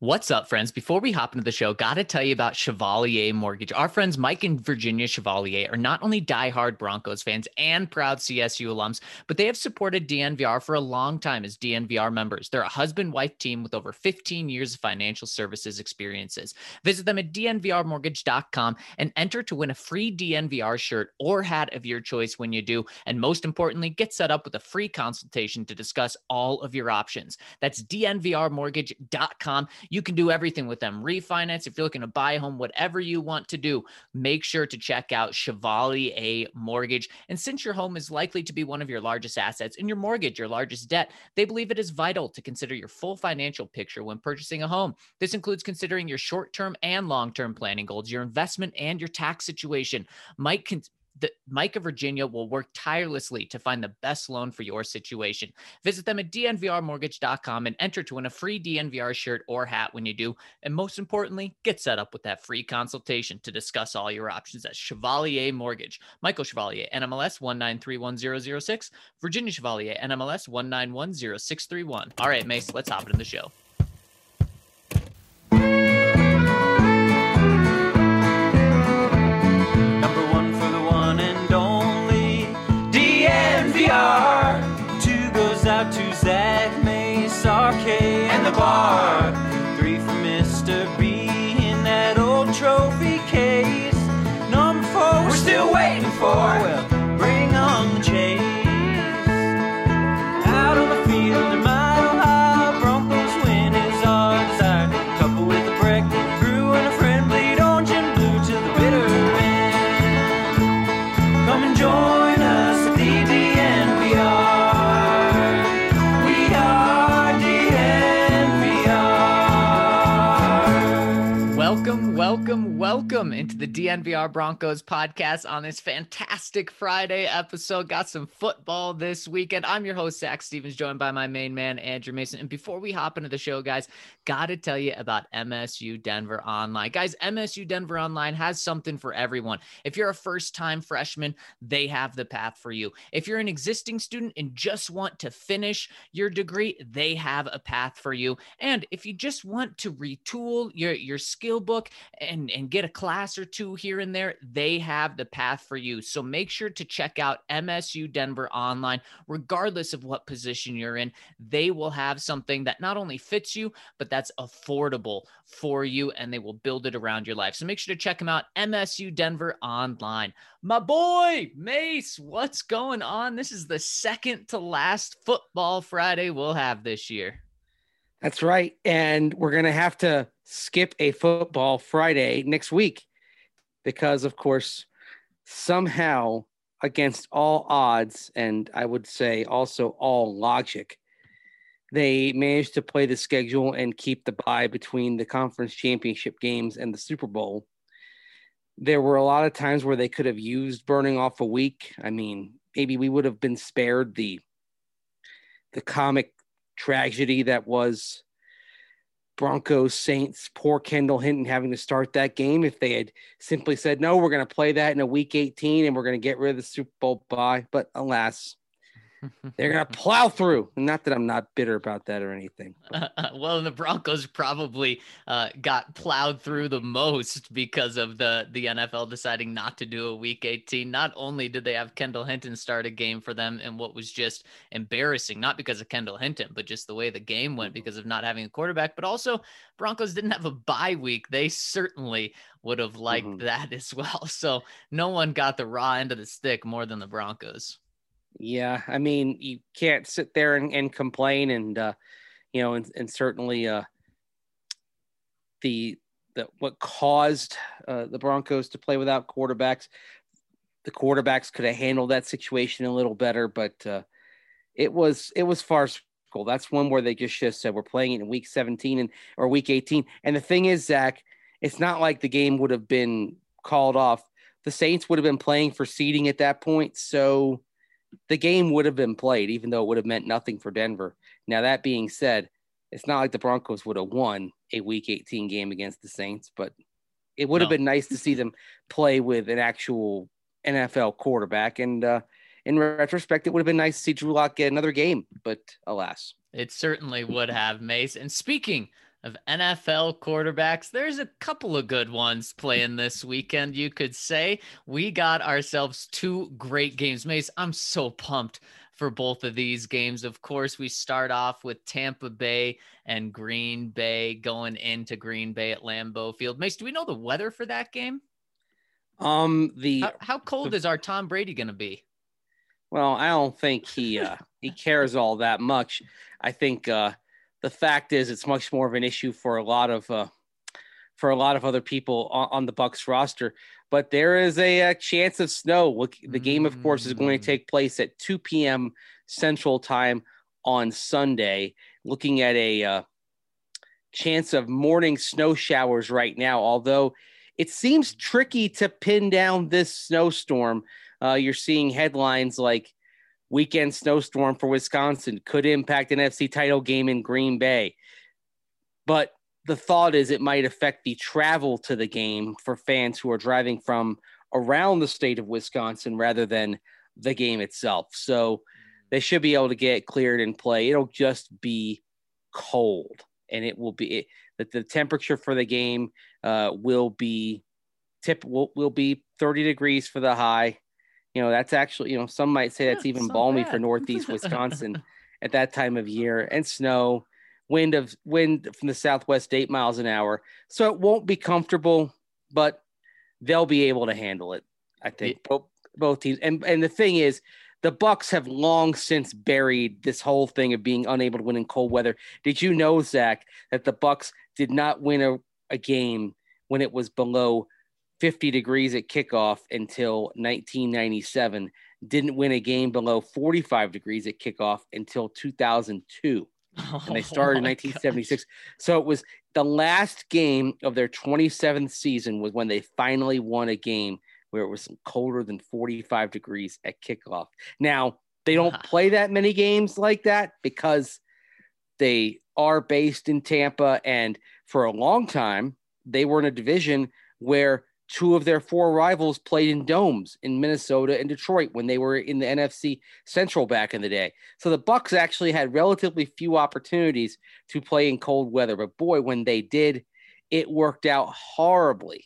What's up, friends? Before we hop into the show, got to tell you about Chevalier Mortgage. Our friends Mike and Virginia Chevalier are not only diehard Broncos fans and proud CSU alums, but they have supported DNVR for a long time as DNVR members. They're a husband-wife team with over 15 years of financial services experiences. Visit them at dnvrmortgage.com and enter to win a free DNVR shirt or hat of your choice when you do. And most importantly, get set up with a free consultation to discuss all of your options. That's dnvrmortgage.com. You can do everything with them. Refinance, if you're looking to buy a home, whatever you want to do, make sure to check out Chevalier Mortgage. And since your home is likely to be one of your largest assets and your mortgage, your largest debt, they believe it is vital to consider your full financial picture when purchasing a home. This includes considering your short-term and long-term planning goals, your investment, and your tax situation. Mike of Virginia will work tirelessly to find the best loan for your situation. Visit them at dnvrmortgage.com and enter to win a free DNVR shirt or hat when you do. And most importantly, get set up with that free consultation to discuss all your options at Chevalier Mortgage. Michael Chevalier, NMLS 1931006. Virginia Chevalier, NMLS 1910631. All right, Mace, let's hop into the show. Two goes out to Zach, Mace, RK, and the bar. Three for Mr. B in that old trophy case. Number four, we're still waiting for. Well, bring on the chase. Out on the field in Mile High, Broncos win is our desire. Couple with a break, brew and a friend, bleed orange and blue to the bitter end. Come and join us at the DNVR. Welcome into the DNVR Broncos podcast on this fantastic Friday episode. Got some football this weekend. I'm your host, Zach Stevens, joined by my main man, Andrew Mason. And before we hop into the show, guys, got to tell you about MSU Denver Online. Guys, MSU Denver Online has something for everyone. If you're a first-time freshman, they have the path for you. If you're an existing student and just want to finish your degree, they have a path for you. And if you just want to retool your skill book and get a class or two here and there, they have the path for you. So make sure to check out MSU Denver Online, regardless of what position you're in. They will have something that not only fits you, but that's affordable for you, and they will build it around your life. So make sure to check them out, MSU Denver Online. My boy, Mace, what's going on? This is the second to last Football Friday we'll have this year. That's right. And we're going to have to skip a Football Friday next week because, of course, somehow against all odds, and I would say also all logic, they managed to play the schedule and keep the bye between the conference championship games and the Super Bowl. There were a lot of times where they could have used burning off a week. I mean, maybe we would have been spared the comic tragedy that was Broncos Saints, poor Kendall Hinton having to start that game if they had simply said, no, we're going to play that in a week 18 and we're going to get rid of the Super Bowl bye. But alas, they're going to plow through. Not that I'm not bitter about that or anything. Well, the Broncos probably got plowed through the most because of the NFL deciding not to do a week 18. Not only did they have Kendall Hinton start a game for them in what was just embarrassing, not because of Kendall Hinton, but just the way the game went because of not having a quarterback, but also Broncos didn't have a bye week. They certainly would have liked that as well. So no one got the raw end of the stick more than the Broncos. Yeah, I mean, you can't sit there and complain, and and certainly the what caused the Broncos to play without quarterbacks. The quarterbacks could have handled that situation a little better, but it was farcical. That's one where they just said we're playing it in week 17 or week 18. And the thing is, Zach, it's not like the game would have been called off. The Saints would have been playing for seeding at that point, so the game would have been played, even though it would have meant nothing for Denver. Now, that being said, it's not like the Broncos would have won a Week 18 game against the Saints, but it would have been nice to see them play with an actual NFL quarterback. And in retrospect, it would have been nice to see Drew Lock get another game, but alas. It certainly would have, Mace. And speaking of NFL quarterbacks. There's a couple of good ones playing this weekend, you could say. We got ourselves two great games. Mace, I'm so pumped for both of these games. Of course, we start off with Tampa Bay and Green Bay going into Green Bay at Lambeau Field. Mace, do we know the weather for that game? How cold is our Tom Brady going to be? Well, I don't think he cares all that much. I think the fact is it's much more of an issue for a lot of other people on the Bucs roster. But there is a chance of snow. Look, the game, of course, is going to take place at 2 p.m. Central Time on Sunday. Looking at a chance of morning snow showers right now, although it seems tricky to pin down this snowstorm. You're seeing headlines like weekend snowstorm for Wisconsin could impact an NFC title game in Green Bay. But the thought is it might affect the travel to the game for fans who are driving from around the state of Wisconsin rather than the game itself. So they should be able to get cleared and play. It'll just be cold, and it will be that the temperature for the game will be 30 degrees for the high. That's actually, some might say that's even balmy for Northeast Wisconsin at that time of year, and snow, wind from the southwest 8 miles an hour. So it won't be comfortable, but they'll be able to handle it. I think both teams. And the thing is, the Bucs have long since buried this whole thing of being unable to win in cold weather. Did you know, Zach, that the Bucs did not win a game when it was below 50 degrees at kickoff until 1997, didn't win a game below 45 degrees at kickoff until 2002. And they started in 1976. So it was the last game of their 27th season was when they finally won a game where it was colder than 45 degrees at kickoff. Now, they don't play that many games like that because they are based in Tampa. And for a long time, they were in a division where two of their four rivals played in domes in Minnesota and Detroit when they were in the NFC Central back in the day. So the Bucs actually had relatively few opportunities to play in cold weather. But boy, when they did, it worked out horribly.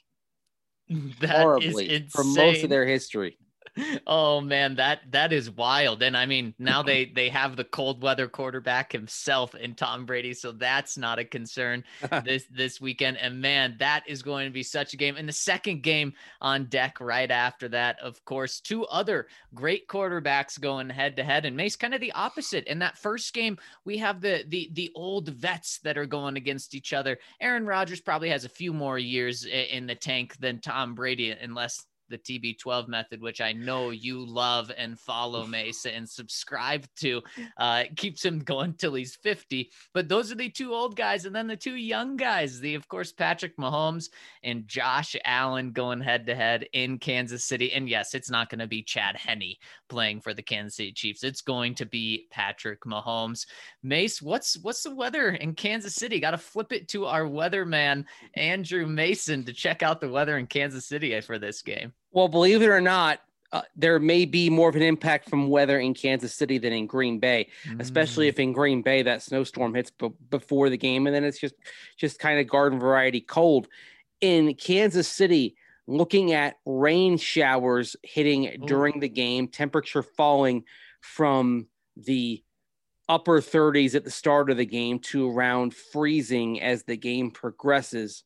For most of their history. Oh man, that is wild. And I mean, now they have the cold weather quarterback himself in Tom Brady, so that's not a concern this weekend. And man, that is going to be such a game. And the second game on deck right after that, of course, two other great quarterbacks going head to head. And Mace, kind of the opposite. In that first game, we have the old vets that are going against each other. Aaron Rodgers probably has a few more years in the tank than Tom Brady, unless the TB12 method, which I know you love and follow, Mesa, and subscribe to, keeps him going till he's 50. But those are the two old guys. And then the two young guys, of course, Patrick Mahomes and Josh Allen going head to head in Kansas City. And yes, it's not going to be Chad Henne playing for the Kansas City Chiefs. It's going to be Patrick Mahomes. Mace, what's the weather in Kansas City? Got to flip it to our weatherman, Andrew Mason, to check out the weather in Kansas City for this game. Well, believe it or not, there may be more of an impact from weather in Kansas City than in Green Bay, especially if in Green Bay that snowstorm hits before the game, and then it's just kind of garden variety cold. In Kansas City, looking at rain showers hitting during the game, temperature falling from the upper 30s at the start of the game to around freezing as the game progresses.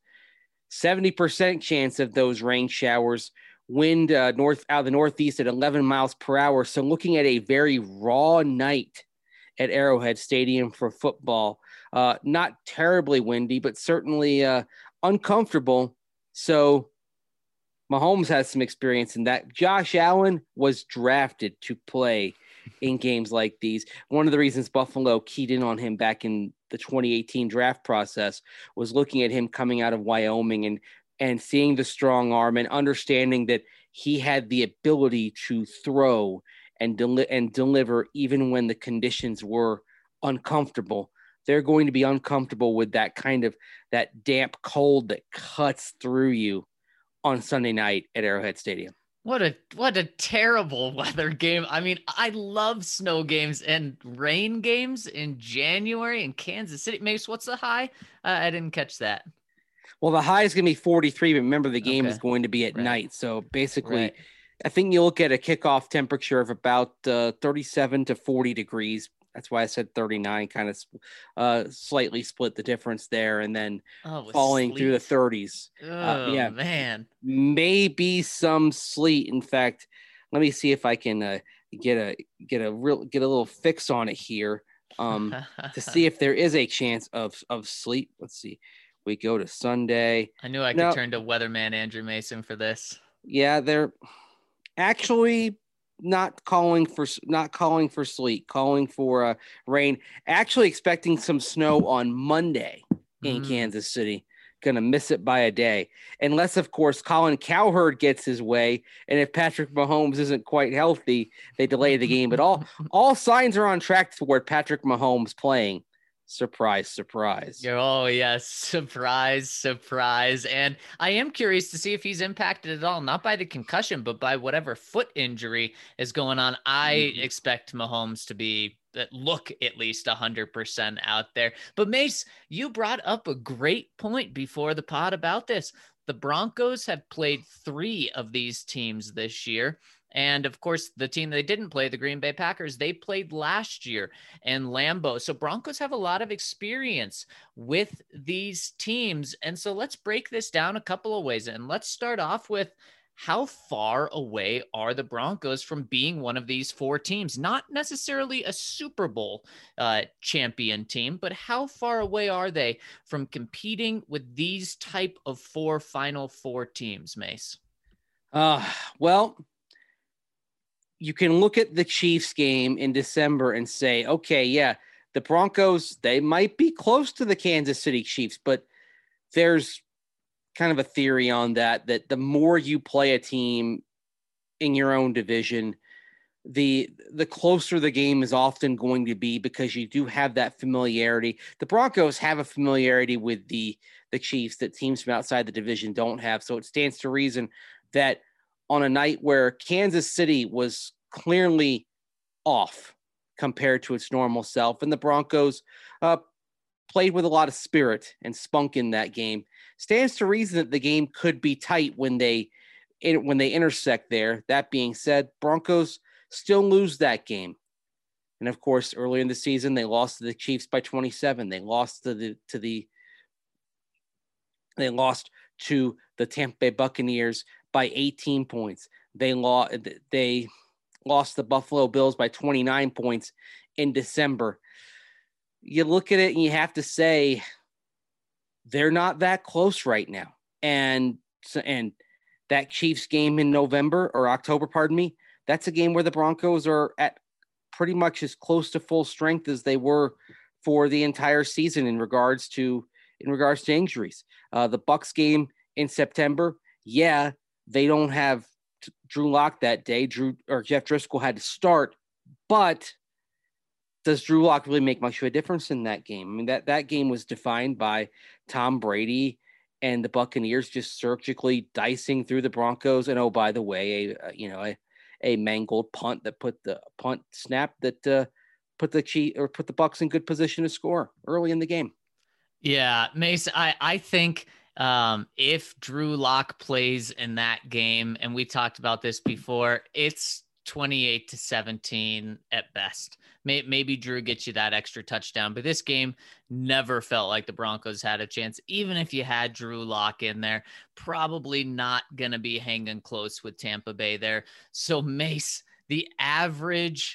70% chance of those rain showers. Wind out of the northeast at 11 miles per hour. So looking at a very raw night at Arrowhead Stadium for football. Not terribly windy, but certainly uncomfortable. So Mahomes has some experience in that. Josh Allen was drafted to play in games like these. One of the reasons Buffalo keyed in on him back in the 2018 draft process was looking at him coming out of Wyoming and seeing the strong arm and understanding that he had the ability to throw and deliver even when the conditions were uncomfortable. They're going to be uncomfortable with that damp cold that cuts through you on Sunday night at Arrowhead Stadium. What a terrible weather game. I mean, I love snow games and rain games in January in Kansas City. Mace, what's the high? I didn't catch that. Well, the high is going to be 43, but remember the game is Okay. going to be at Right. night. So basically, Right. I think you look at a kickoff temperature of about 37 to 40 degrees. That's why I said 39, kind of slightly split the difference there, and then Oh, with falling through the sleet. 30s. Oh Yeah, man. maybe some sleet. In fact, let me see if I can get a little fix on it here to see if there is a chance of sleet. Let's see. We go to Sunday. I knew I could No, turn to weatherman Andrew Mason for this. yeah, they're actually not calling for sleet, calling for rain. Actually, expecting some snow on Monday in Mm. Kansas City. Gonna miss it by a day, unless of course Colin Cowherd gets his way, and if Patrick Mahomes isn't quite healthy, they delay the game. But all signs are on track toward Patrick Mahomes playing. Surprise, surprise. Oh yes, surprise, surprise. And I am curious to see if he's impacted at all, not by the concussion, but by whatever foot injury is going on. I Mhm. expect Mahomes to be look at least 100% out there. But Mace, you brought up a great point before the pod about this. The Broncos have played 3 of these teams this year. And of course, the team they didn't play, the Green Bay Packers, they played last year and Lambeau. So Broncos have a lot of experience with these teams. And so let's break this down a couple of ways. And let's start off with how far away are the Broncos from being one of these 4 teams? Not necessarily a Super Bowl champion team, but how far away are they from competing with these type of 4 Final Four teams, Mace? Uh, well, you can look at the Chiefs game in December and say, okay, yeah, the Broncos, they might be close to the Kansas City Chiefs, but there's kind of a theory on that the more you play a team in your own division, the closer the game is often going to be because you do have that familiarity. The Broncos have a familiarity with the Chiefs that teams from outside the division don't have. So it stands to reason that on a night where Kansas City was clearly off compared to its normal self, and the Broncos played with a lot of spirit and spunk in that game, stands to reason that the game could be tight when they intersect there. That being said, Broncos still lose that game. And of course, earlier in the season, they lost to the Chiefs by 27. They lost they lost to the Tampa Bay Buccaneers by 18 points. They lost the Buffalo Bills by 29 points in December. You look at it and you have to say they're not that close right now. And that Chiefs game in November or October, pardon me, that's a game where the Broncos are at pretty much as close to full strength as they were for the entire season in regards to injuries. The Bucks game in September, yeah, they don't have Drew Lock that day. Jeff Driscoll had to start, but does Drew Lock really make much of a difference in that game? I mean, that game was defined by Tom Brady and the Buccaneers just surgically dicing through the Broncos. And oh, by the way, a mangled punt that put the put the Bucks in good position to score early in the game. Yeah, Mace, I think if Drew Lock plays in that game, and we talked about this before, it's 28-17 at best. Maybe Drew gets you that extra touchdown, but this game never felt like the Broncos had a chance. Even if you had Drew Lock in there, probably not going to be hanging close with Tampa Bay there. So Mace, the average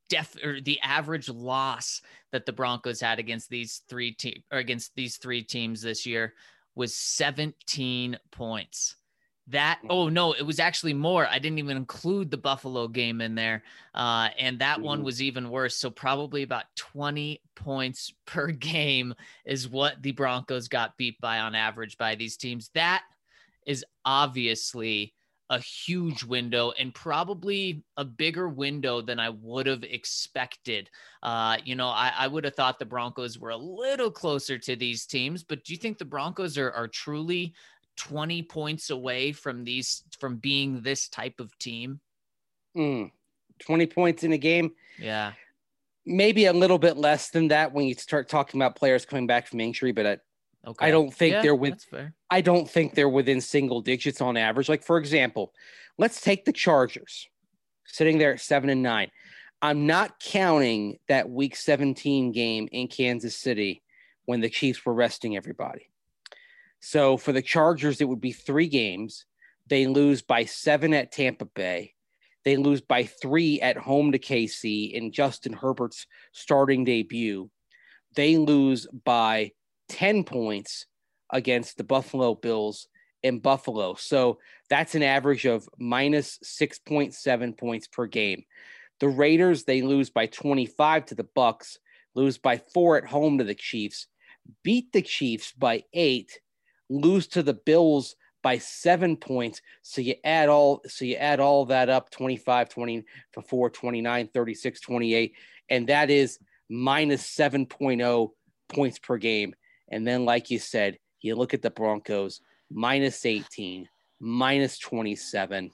loss that the Broncos had against these 3 teams this year was 17 points. Oh no, it was actually more. I didn't even include the Buffalo game in there. And that one was even worse. So probably about 20 points per game is what the Broncos got beat by on average by these teams. That is obviously a huge window and probably a bigger window than I would have expected. I would have thought the Broncos were a little closer to these teams, but do you think the Broncos are truly 20 points away from being this type of team? 20 points in a game. Yeah. Maybe a little bit less than that when you start talking about players coming back from injury, but I don't think that's fair. I don't think they're within single digits on average. Like, for example, let's take the Chargers sitting there at 7-9. I'm not counting that week 17 game in Kansas City when the Chiefs were resting everybody. So for the Chargers, it would be 3 games. They lose by 7 at Tampa Bay. They lose by 3 at home to KC in Justin Herbert's starting debut. They lose by 10 points against the Buffalo Bills in Buffalo. So that's an average of minus 6.7 points per game. The Raiders, they lose by 25 to the Bucks, lose by 4 at home to the Chiefs, beat the Chiefs by 8, lose to the Bills by 7 points. So you add all that up, 25, 24, 29, 36, 28, and that is minus 7.0 points per game. And then, like you said, you look at the Broncos, minus 18, minus 27,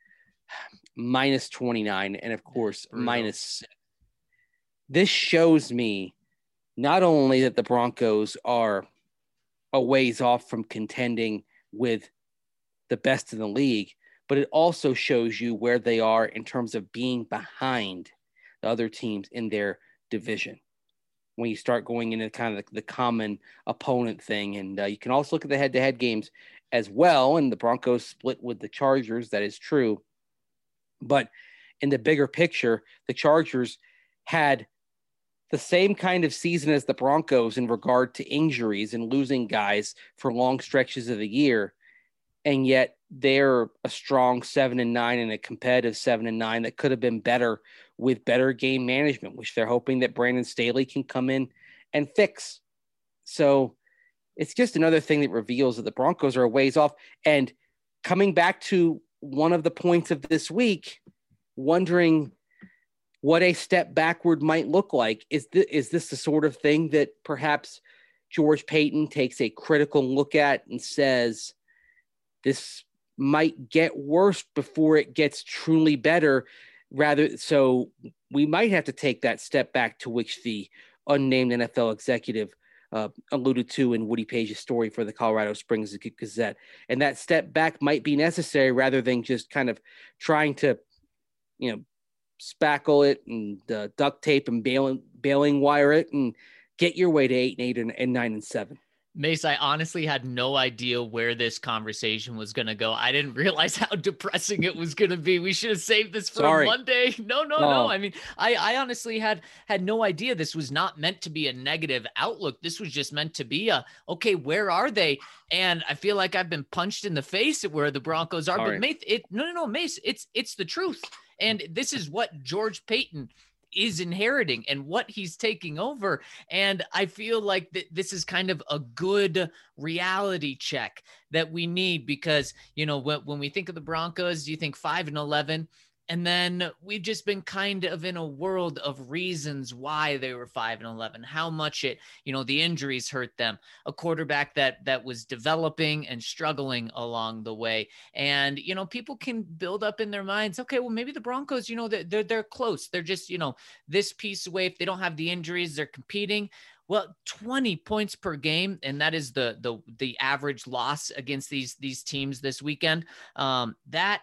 minus 29, and of course, minus 6. This shows me not only that the Broncos are a ways off from contending with the best in the league, but it also shows you where they are in terms of being behind the other teams in their division. When you start going into kind of the common opponent thing. And you can also look at the head-to-head games as well. And the Broncos split with the Chargers. That is true. But in the bigger picture, the Chargers had the same kind of season as the Broncos in regard to injuries and losing guys for long stretches of the year. And yet they're a strong 7-9 and a competitive 7-9 that could have been better with better game management, which they're hoping that Brandon Staley can come in and fix. So it's just another thing that reveals that the Broncos are a ways off. And coming back to one of the points of this week, wondering what a step backward might look like. Is this the sort of thing that perhaps George Paton takes a critical look at and says, this might get worse before it gets truly better? So we might have to take that step back, to which the unnamed NFL executive alluded to in Woody Page's story for the Colorado Springs Gazette. And that step back might be necessary rather than just kind of trying to, spackle it and duct tape and baling wire it and get your way to 8-8 and 9-7. Mace, I honestly had no idea where this conversation was going to go. I didn't realize how depressing it was going to be. We should have saved this for a Monday. No. I mean, I honestly had no idea this was not meant to be a negative outlook. This was just meant to be okay, where are they? And I feel like I've been punched in the face at where the Broncos are. But Mace, it's the truth. And this is what George Paton is inheriting and what he's taking over. And I feel like this is kind of a good reality check that we need, because, when we think of the Broncos, you think 5-11, and then we've just been kind of in a world of reasons why they were 5-11, how much the injuries hurt them, a quarterback that was developing and struggling along the way. And, people can build up in their minds, okay, well, maybe the Broncos, they're close. They're just, this piece away. If they don't have the injuries, they're competing. Well, 20 points per game, and that is the average loss against these teams this weekend. That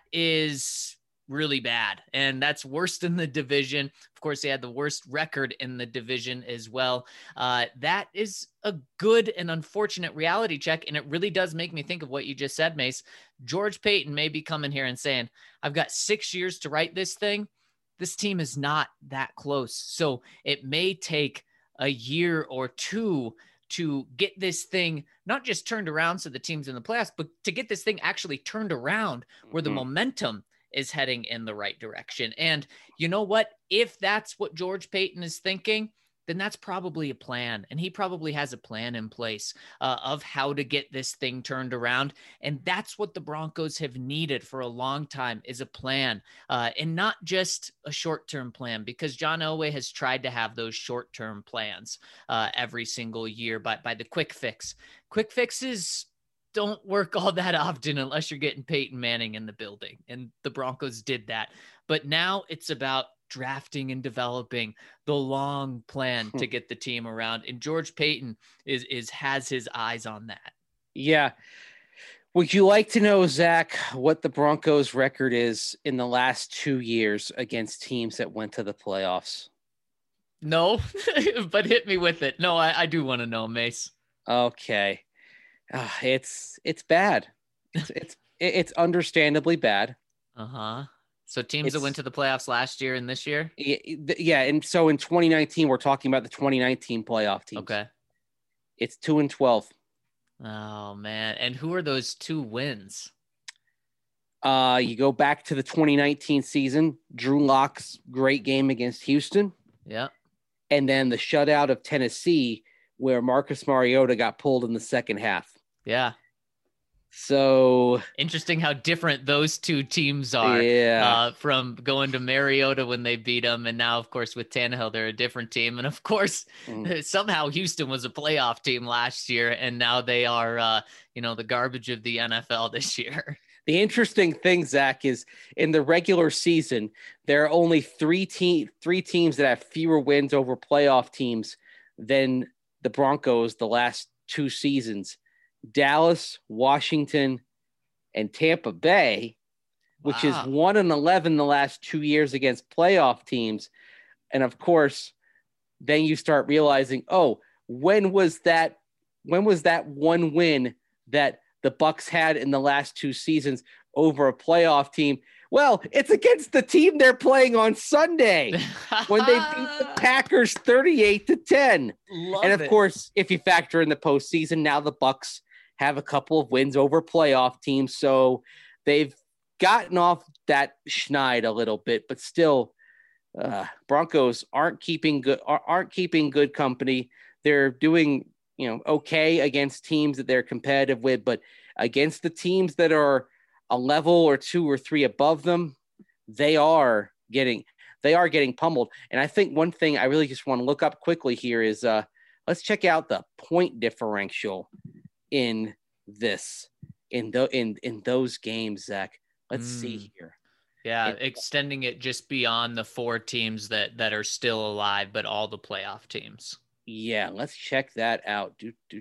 is really bad, and that's worse than the division. Of course, they had the worst record in the division as well. That is a good and unfortunate reality check, and it really does make me think of what you just said, Mace. George Paton may be coming here and saying, I've got 6 years to write this thing. This team is not that close, so it may take a year or two to get this thing not just turned around so the team's in the playoffs, but to get this thing actually turned around where the momentum is heading in the right direction. And you know what? If that's what George Paton is thinking, then that's probably a plan. And he probably has a plan in place of how to get this thing turned around. And that's what the Broncos have needed for a long time, is a plan, and not just a short-term plan, because John Elway has tried to have those short-term plans every single year by the quick fix. Quick fixes don't work all that often unless you're getting Peyton Manning in the building. And the Broncos did that. But now it's about drafting and developing the long plan to get the team around. And George Payton has his eyes on that. Yeah. Would you like to know, Zach, what the Broncos record is in the last 2 years against teams that went to the playoffs? No, but hit me with it. No, I do want to know, Mace. Okay. It's bad. It's understandably bad. So teams that went to the playoffs last year and this year? Yeah. And so in 2019, we're talking about the 2019 playoff teams. Okay. It's 2-12. Oh, man. And who are those 2 wins? You go back to the 2019 season, Drew Lock's great game against Houston. Yeah. And then the shutout of Tennessee, where Marcus Mariota got pulled in the second half. Yeah. So interesting how different those 2 teams are. Yeah. From going to Mariota when they beat them, and now, of course, with Tannehill, they're a different team. And of course, somehow Houston was a playoff team last year, and now they are, the garbage of the NFL this year. The interesting thing, Zach, is in the regular season, there are only three teams that have fewer wins over playoff teams than the Broncos the last 2 seasons. Dallas, Washington, and Tampa Bay, which is 1-11 the last 2 years against playoff teams. And of course, then you start realizing, when was that one win that the Bucs had in the last 2 seasons over a playoff team? Well, it's against the team they're playing on Sunday when they beat the Packers 38-10. And of course, if you factor in the postseason, now the Bucs have a couple of wins over playoff teams. So they've gotten off that schneid a little bit, but still Broncos aren't keeping good company. They're doing, okay against teams that they're competitive with, but against the teams that are a level or 2 or 3 above them, they are getting pummeled. And I think one thing I really just want to look up quickly here is let's check out the point differential in those games, Zach. Let's see here. Yeah, extending it just beyond the 4 teams that are still alive, but all the playoff teams. Yeah, let's check that out.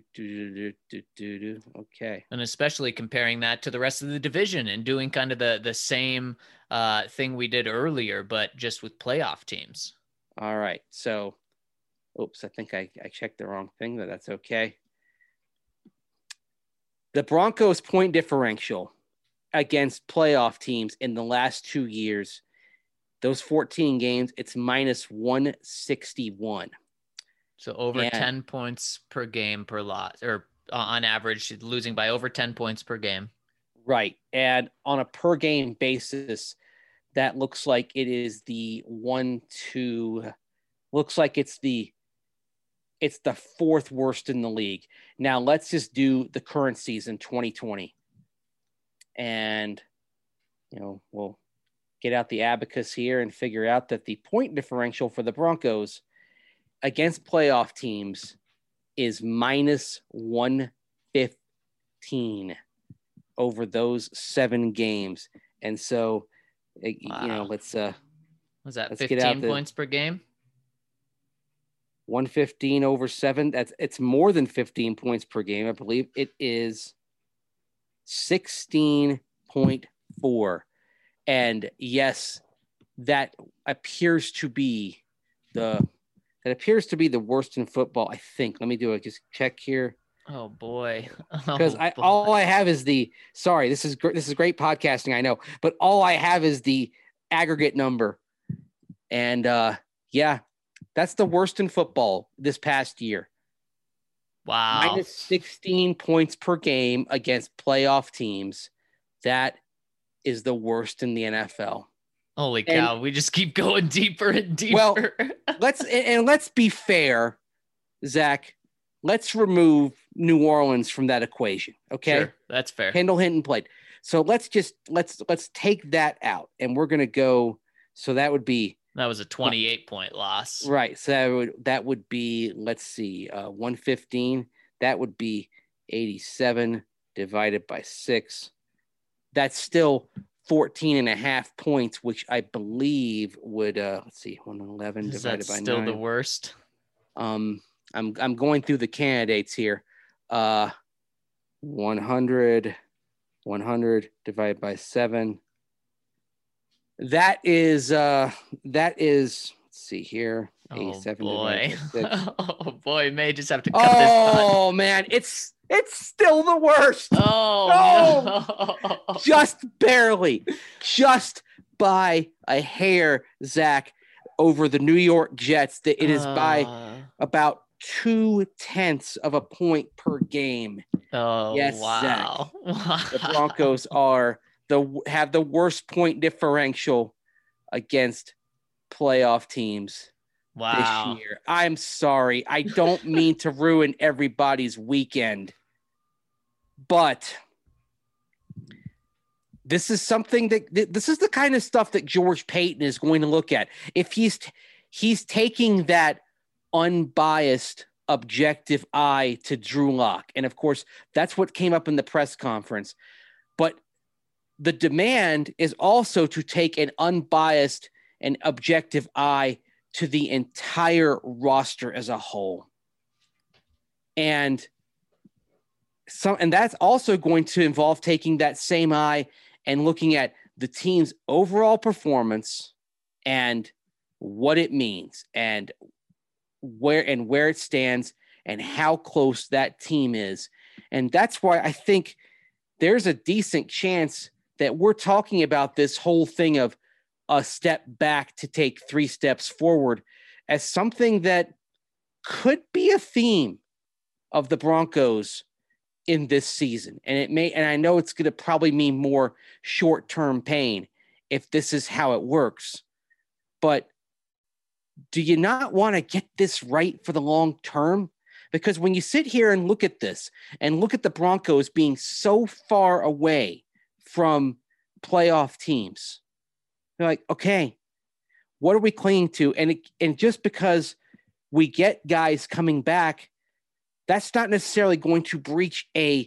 Okay. And especially comparing that to the rest of the division and doing kind of the same thing we did earlier, but just with playoff teams. All right. So, I think I checked the wrong thing, but that's okay. The Broncos' point differential against playoff teams in the last 2 years, those 14 games, it's -161. So over 10 points per game per loss, or on average, losing by over 10 points per game. Right. And on a per game basis, that looks like it is looks like it's the 4th worst in the league. Now let's just do the current season, 2020. And, we'll get out the abacus here and figure out that the point differential for the Broncos against playoff teams is -115 over those 7 games. And so, let's was that 15 points per game? 115 over 7. It's more than 15 points per game. I believe it is 16.4. And yes, that appears to be the worst in football, I think. Let me do a just check here. Oh boy. Because all I have is this is great podcasting, I know, but all I have is the aggregate number. And that's the worst in football this past year. Wow. -16 points per game against playoff teams. That is the worst in the NFL. Holy cow. We just keep going deeper and deeper. Well, let's be fair, Zach. Let's remove New Orleans from that equation. Okay. Sure, that's fair. Kendall Hinton played. So let's take that out, and we're going to go. So that would be, that was a 28-point loss. Right. So that would be, let's see, 115. That would be 87 divided by 6. That's still 14.5 points, which I believe would, let's see, 111 divided by 9. Still the worst? I'm going through the candidates here. 100 divided by 7. That is, let's see here. Oh 7 boy. divided by 6. Oh boy, may just have to cut this. Oh man, it's still the worst. Oh no. Just barely, just by a hair, Zach, over the New York Jets. That it is by about 0.2 of a point per game. Oh yes, wow. Zach. The Broncos have the worst point differential against playoff teams this year. I'm sorry. I don't mean to ruin everybody's weekend, but this is something this is the kind of stuff that George Paton is going to look at. If he's taking that unbiased, objective eye to Drew Lock. And of course, that's what came up in the press conference. But the demand is also to take an unbiased and objective eye to the entire roster as a whole. And that's also going to involve taking that same eye and looking at the team's overall performance and what it means and where it stands and how close that team is. And that's why I think there's a decent chance that we're talking about this whole thing of a step back to take 3 steps forward as something that could be a theme of the Broncos in this season. And I know it's going to probably mean more short-term pain if this is how it works. But do you not want to get this right for the long term? Because when you sit here and look at this and look at the Broncos being so far away from playoff teams, you're like, okay, what are we clinging to? And just because we get guys coming back, that's not necessarily going to breach a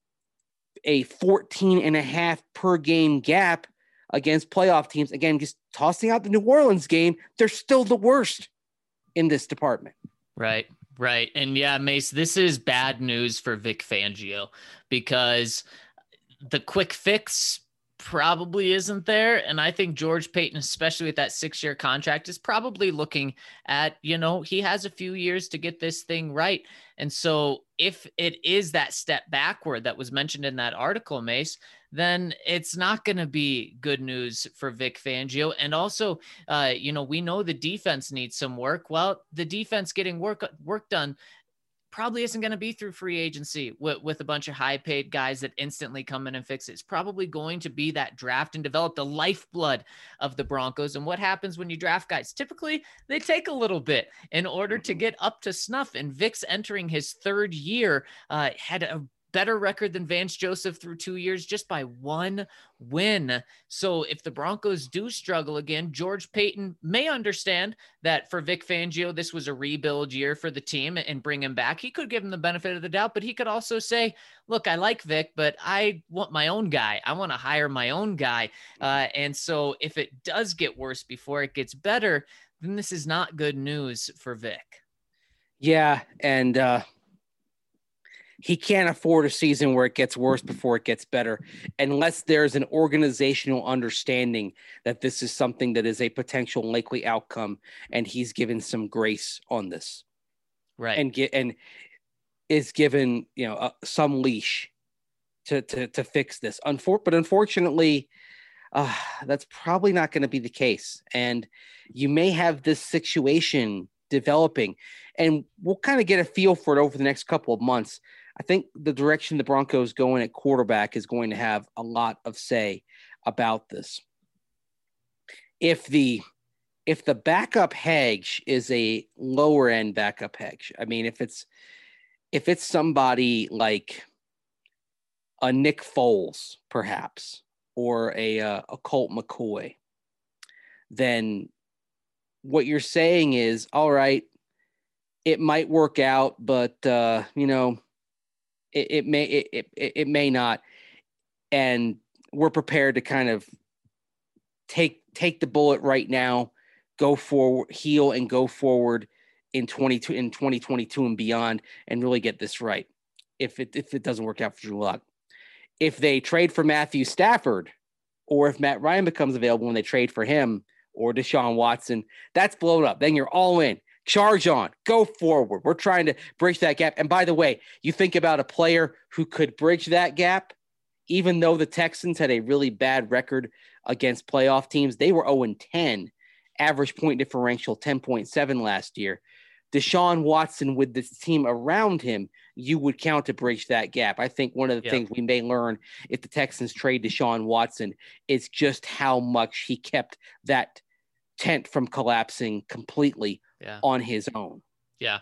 14.5 per game gap against playoff teams. Again, just tossing out the New Orleans game, they're still the worst in this department. Right. And yeah, Mace, this is bad news for Vic Fangio because the quick fix probably isn't there. And I think George Paton, especially with that 6-year contract, is probably looking at, he has a few years to get this thing right. And so if it is that step backward that was mentioned in that article, Mace, then it's not going to be good news for Vic Fangio. And also, we know the defense needs some work. Well, the defense getting work done probably isn't going to be through free agency with a bunch of high paid guys that instantly come in and fix it. It's probably going to be that draft and develop the lifeblood of the Broncos. And what happens when you draft guys? Typically they take a little bit in order to get up to snuff. And Vic's entering his 3rd year, had a better record than Vance Joseph through 2 years just by 1 win. So if the Broncos do struggle again, George Paton may understand that for Vic Fangio, this was a rebuild year for the team and bring him back. He could give him the benefit of the doubt, but he could also say, look, I like Vic, but I want my own guy. I want to hire my own guy. And so if it does get worse before it gets better, then this is not good news for Vic. Yeah. And, he can't afford a season where it gets worse before it gets better, unless there's an organizational understanding that this is something that is a potential likely outcome, and he's given some grace on this, right? And is given some leash to fix this. But unfortunately, that's probably not going to be the case, and you may have this situation developing, and we'll kind of get a feel for it over the next couple of months. I think the direction the Broncos going at quarterback is going to have a lot of say about this. If the backup hedge is a lower end backup hedge, I mean, if it's somebody like a Nick Foles, perhaps, or a Colt McCoy, then what you're saying is, all right, it might work out, but It may not. And we're prepared to kind of take the bullet right now, go forward, heal, and go forward in 2022 and beyond, and really get this right. If it doesn't work out for Drew Lock, if they trade for Matthew Stafford, or if Matt Ryan becomes available and they trade for him or Deshaun Watson, that's blown up. Then you're all in. Charge on. Go forward. We're trying to bridge that gap. And by the way, you think about a player who could bridge that gap, even though the Texans had a really bad record against playoff teams. They were 0-10, average point differential 10.7 last year. Deshaun Watson, with this team around him, you would count to bridge that gap. I think one of the things we may learn if the Texans trade Deshaun Watson is just how much he kept that tent from collapsing completely on his own. Yeah.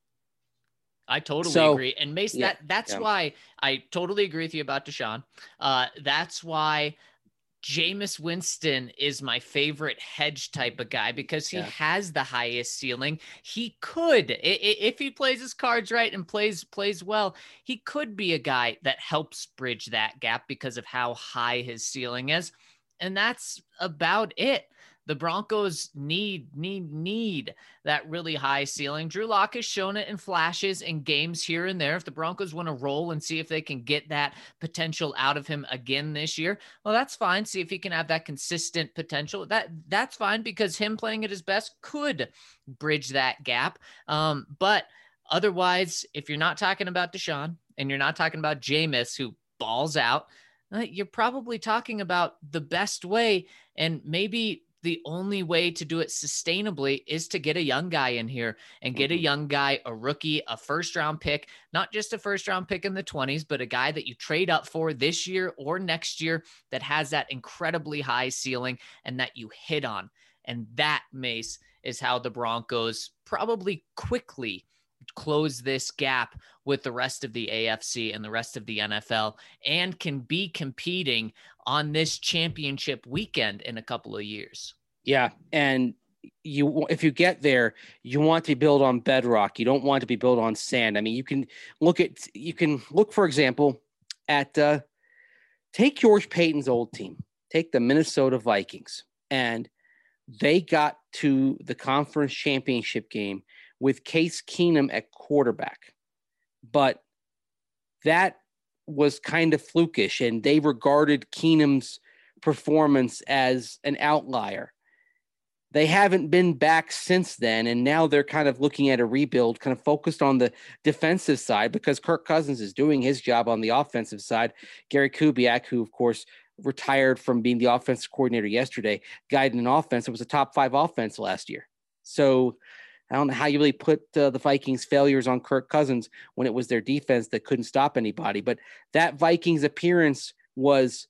I totally agree. And Mace, that's why I totally agree with you about Deshaun. That's why Jameis Winston is my favorite hedge type of guy, because he has the highest ceiling. He could, if he plays his cards right and plays well, he could be a guy that helps bridge that gap because of how high his ceiling is. And that's about it. The Broncos need that really high ceiling. Drew Lock has shown it in flashes in games here and there. If the Broncos want to roll and see if they can get that potential out of him again this year, well, that's fine. See if he can have that consistent potential. That's fine, because him playing at his best could bridge that gap. But otherwise, if you're not talking about Deshaun and you're not talking about Jameis, who balls out, you're probably talking about the best way, and maybe the only way to do it sustainably is to get a young guy in here and get a young guy, a rookie, a first-round pick, not just a first-round pick in the 20s, but a guy that you trade up for this year or next year that has that incredibly high ceiling and that you hit on. And that, Mace, is how the Broncos probably quickly close this gap with the rest of the AFC and the rest of the NFL, and can be competing on this championship weekend in a couple of years. Yeah. And if you get there, you want to build on bedrock. You don't want to be built on sand. I mean, you can look, for example, at, take George Payton's old team, take the Minnesota Vikings, and they got to the conference championship game with Case Keenum at quarterback. But that was kind of flukish, and they regarded Keenum's performance as an outlier. They haven't been back since then, and now they're kind of looking at a rebuild, kind of focused on the defensive side, because Kirk Cousins is doing his job on the offensive side. Gary Kubiak, who, of course, retired from being the offensive coordinator yesterday, guided an offense that was a top 5 offense last year. So I don't know how you really put the Vikings' failures on Kirk Cousins when it was their defense that couldn't stop anybody. But that Vikings appearance was,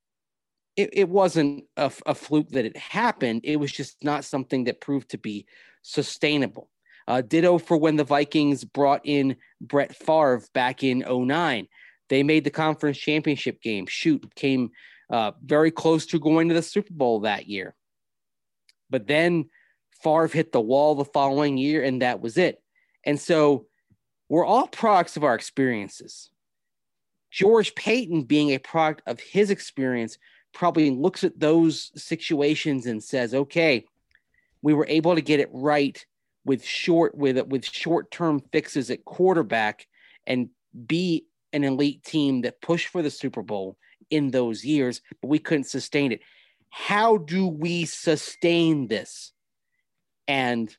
it wasn't a fluke that it happened. It was just not something that proved to be sustainable. Ditto for when the Vikings brought in Brett Favre back in 2009. They made the conference championship game. Came very close to going to the Super Bowl that year. But then Favre hit the wall the following year, and that was it. And so we're all products of our experiences. George Payton, being a product of his experience, probably looks at those situations and says, okay, we were able to get it right with short-term fixes at quarterback and be an elite team that pushed for the Super Bowl in those years, but we couldn't sustain it. How do we sustain this? And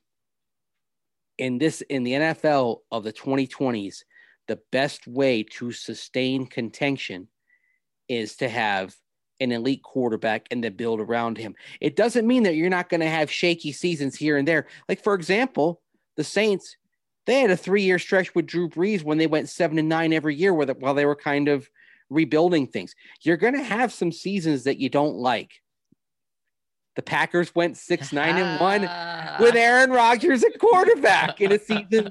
in the NFL of the 2020s, the best way to sustain contention is to have an elite quarterback and to build around him. It doesn't mean that you're not going to have shaky seasons here and there. Like, for example, the Saints, they had a 3-year stretch with Drew Brees when they went 7-9 every year while they were kind of rebuilding things. You're going to have some seasons that you don't like. The Packers went 6-9-1 with Aaron Rodgers at quarterback in a season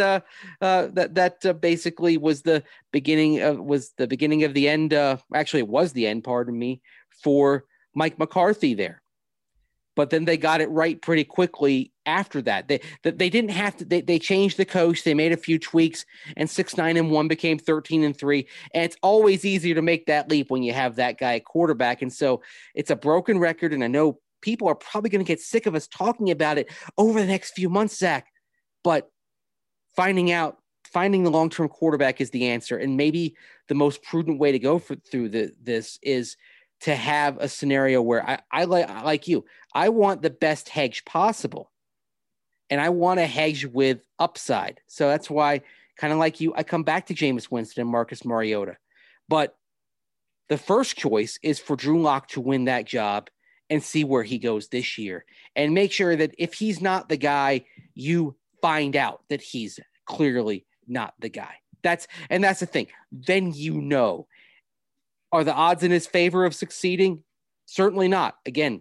that basically was the beginning of the end. Actually, it was the end, pardon me, for Mike McCarthy there. but then they got it right pretty quickly after that. They didn't have to. They changed the coach. They made a few tweaks, and 6-9-1 became 13-3. And it's always easier to make that leap when you have that guy at quarterback. And so it's a broken record. And I know people are probably going to get sick of us talking about it over the next few months, Zach. But finding the long-term quarterback is the answer. And maybe the most prudent way to go through this is to have a scenario where I like you. I want the best hedge possible. And I want to hedge with upside. So that's why, kind of like you, I come back to Jameis Winston and Marcus Mariota. But the first choice is for Drew Lock to win that job and see where he goes this year. And make sure that if he's not the guy, you find out that he's clearly not the guy. That's the thing. Then you know. Are the odds in his favor of succeeding? Certainly not. Again,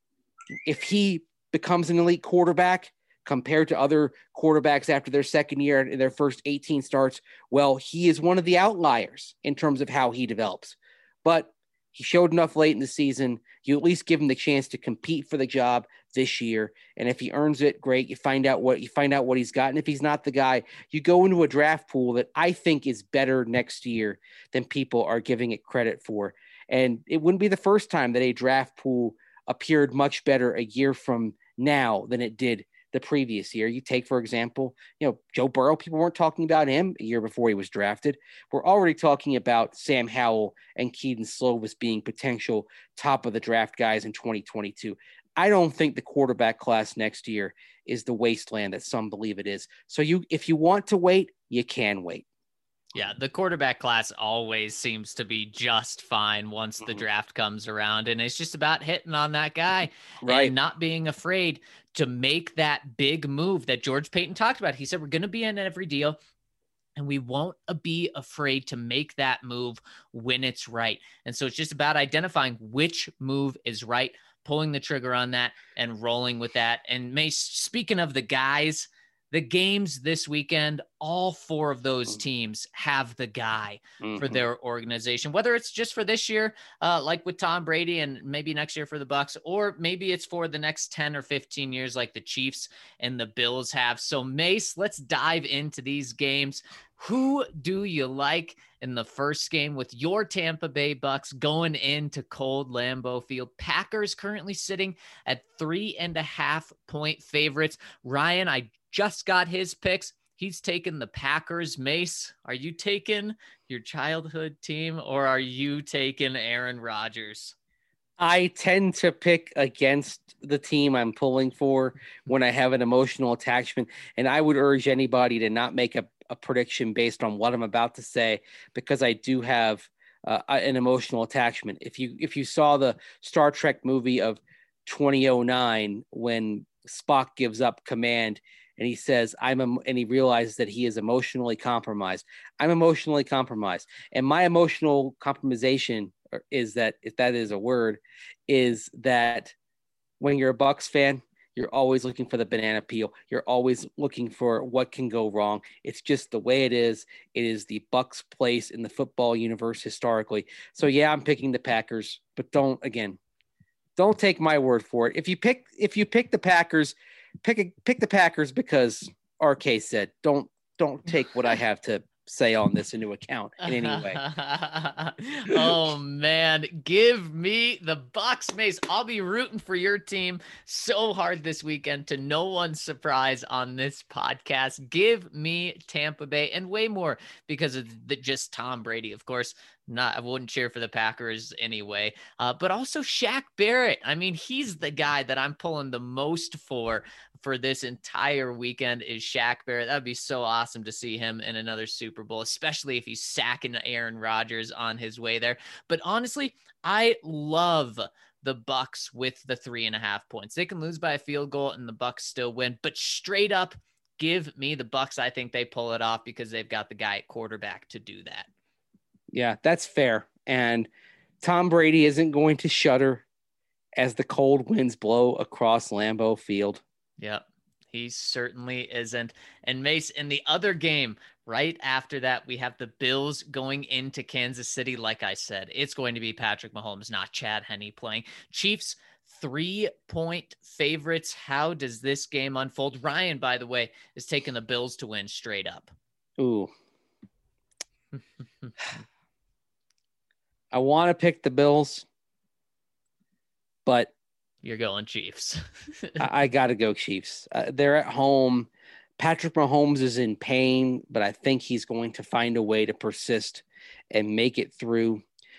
if he becomes an elite quarterback compared to other quarterbacks after their second year and their first 18 starts, well, he is one of the outliers in terms of how he develops. But he showed enough late in the season. You at least give him the chance to compete for the job this year. And if he earns it, great. You find out what he's got. And if he's not the guy, you go into a draft pool that I think is better next year than people are giving it credit for. And it wouldn't be the first time that a draft pool appeared much better a year from now than it did the previous year. You take, for example, Joe Burrow, people weren't talking about him a year before he was drafted. We're already talking about Sam Howell and Keaton Slovis being potential top of the draft guys in 2022. I don't think the quarterback class next year is the wasteland that some believe it is. So if you want to wait, you can wait. Yeah, the quarterback class always seems to be just fine once the draft comes around. And it's just about hitting on that guy and not being afraid to make that big move that George Paton talked about. He said, we're going to be in every deal and we won't be afraid to make that move when it's right. And so it's just about identifying which move is right, pulling the trigger on that and rolling with that. And speaking of the guys, the games this weekend, all four of those teams have the guy for their organization, whether it's just for this year, like with Tom Brady, and maybe next year for the Bucs, or maybe it's for the next 10 or 15 years like the Chiefs and the Bills have. So Mace, let's dive into these games. Who do you like in the first game with your Tampa Bay Bucs going into cold Lambeau Field? Packers currently sitting at 3.5-point favorites. Ryan, I just got his picks. He's taken the Packers. Mace, are you taking your childhood team or are you taking Aaron Rodgers? I tend to pick against the team I'm pulling for when I have an emotional attachment. And I would urge anybody to not make a prediction based on what I'm about to say, because I do have an emotional attachment. If you saw the Star Trek movie of 2009, when Spock gives up command and he says, and he realizes that he is emotionally compromised. I'm emotionally compromised. And my emotional compromisation is that, if that is a word, is that when you're a Bucs fan, you're always looking for the banana peel. You're always looking for what can go wrong. It's just the way it is. It is the Bucs' place in the football universe historically. So yeah, I'm picking the Packers, but don't take my word for it. If you pick the Packers, pick the Packers because RK said. Don't take what I have to say on this into account in any way. Oh man, give me the Bucs, Mace. I'll be rooting for your team so hard this weekend, to no one's surprise on this podcast. Give me Tampa Bay, and way more because of just Tom Brady, of course. I wouldn't cheer for the Packers anyway, but also Shaq Barrett. I mean, he's the guy that I'm pulling the most for this entire weekend is Shaq Barrett. That'd be so awesome to see him in another Super Bowl, especially if he's sacking Aaron Rodgers on his way there. But honestly, I love the Bucs with the 3.5 points. They can lose by a field goal and the Bucs still win, but straight up, give me the Bucs. I think they pull it off because they've got the guy at quarterback to do that. Yeah, that's fair. And Tom Brady isn't going to shudder as the cold winds blow across Lambeau Field. Yep, he certainly isn't. And Mace, in the other game Right after that, we have the Bills going into Kansas City. Like I said, it's going to be Patrick Mahomes, not Chad Henne playing. Chiefs 3-point favorites. How does this game unfold? Ryan, by the way, is taking the Bills to win straight up. Ooh. I want to pick the Bills, but you're going Chiefs. I got to go Chiefs. They're at home. Patrick Mahomes is in pain, but I think he's going to find a way to persist and make it through.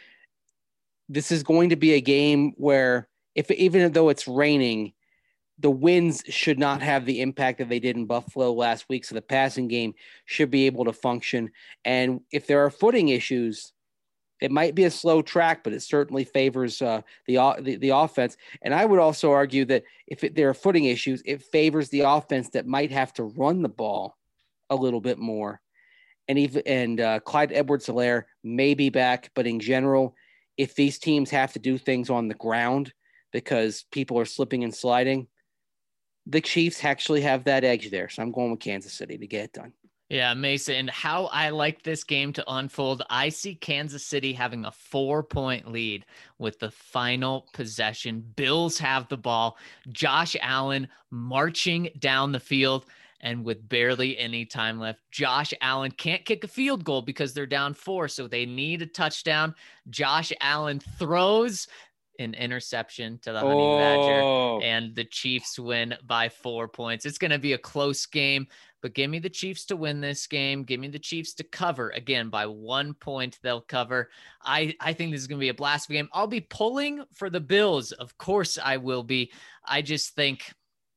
This is going to be a game where, even though it's raining, the winds should not have the impact that they did in Buffalo last week. So the passing game should be able to function. And if there are footing issues, it might be a slow track, but it certainly favors the offense. And I would also argue that if there are footing issues, it favors the offense that might have to run the ball a little bit more. And Clyde Edwards-Helaire may be back, but in general, if these teams have to do things on the ground because people are slipping and sliding, the Chiefs actually have that edge there. So I'm going with Kansas City to get it done. Yeah, Mason, how I like this game to unfold. I see Kansas City having a 4-point lead with the final possession. Bills have the ball. Josh Allen marching down the field, and with barely any time left, Josh Allen can't kick a field goal because they're down 4, so they need a touchdown. Josh Allen throws an interception to the Honey Badger, and the Chiefs win by 4 points. It's going to be a close game, but give me the Chiefs to win this game. Give me the Chiefs to cover. Again, by 1 point, they'll cover. I think this is going to be a blast game. I'll be pulling for the Bills. Of course I will be. I just think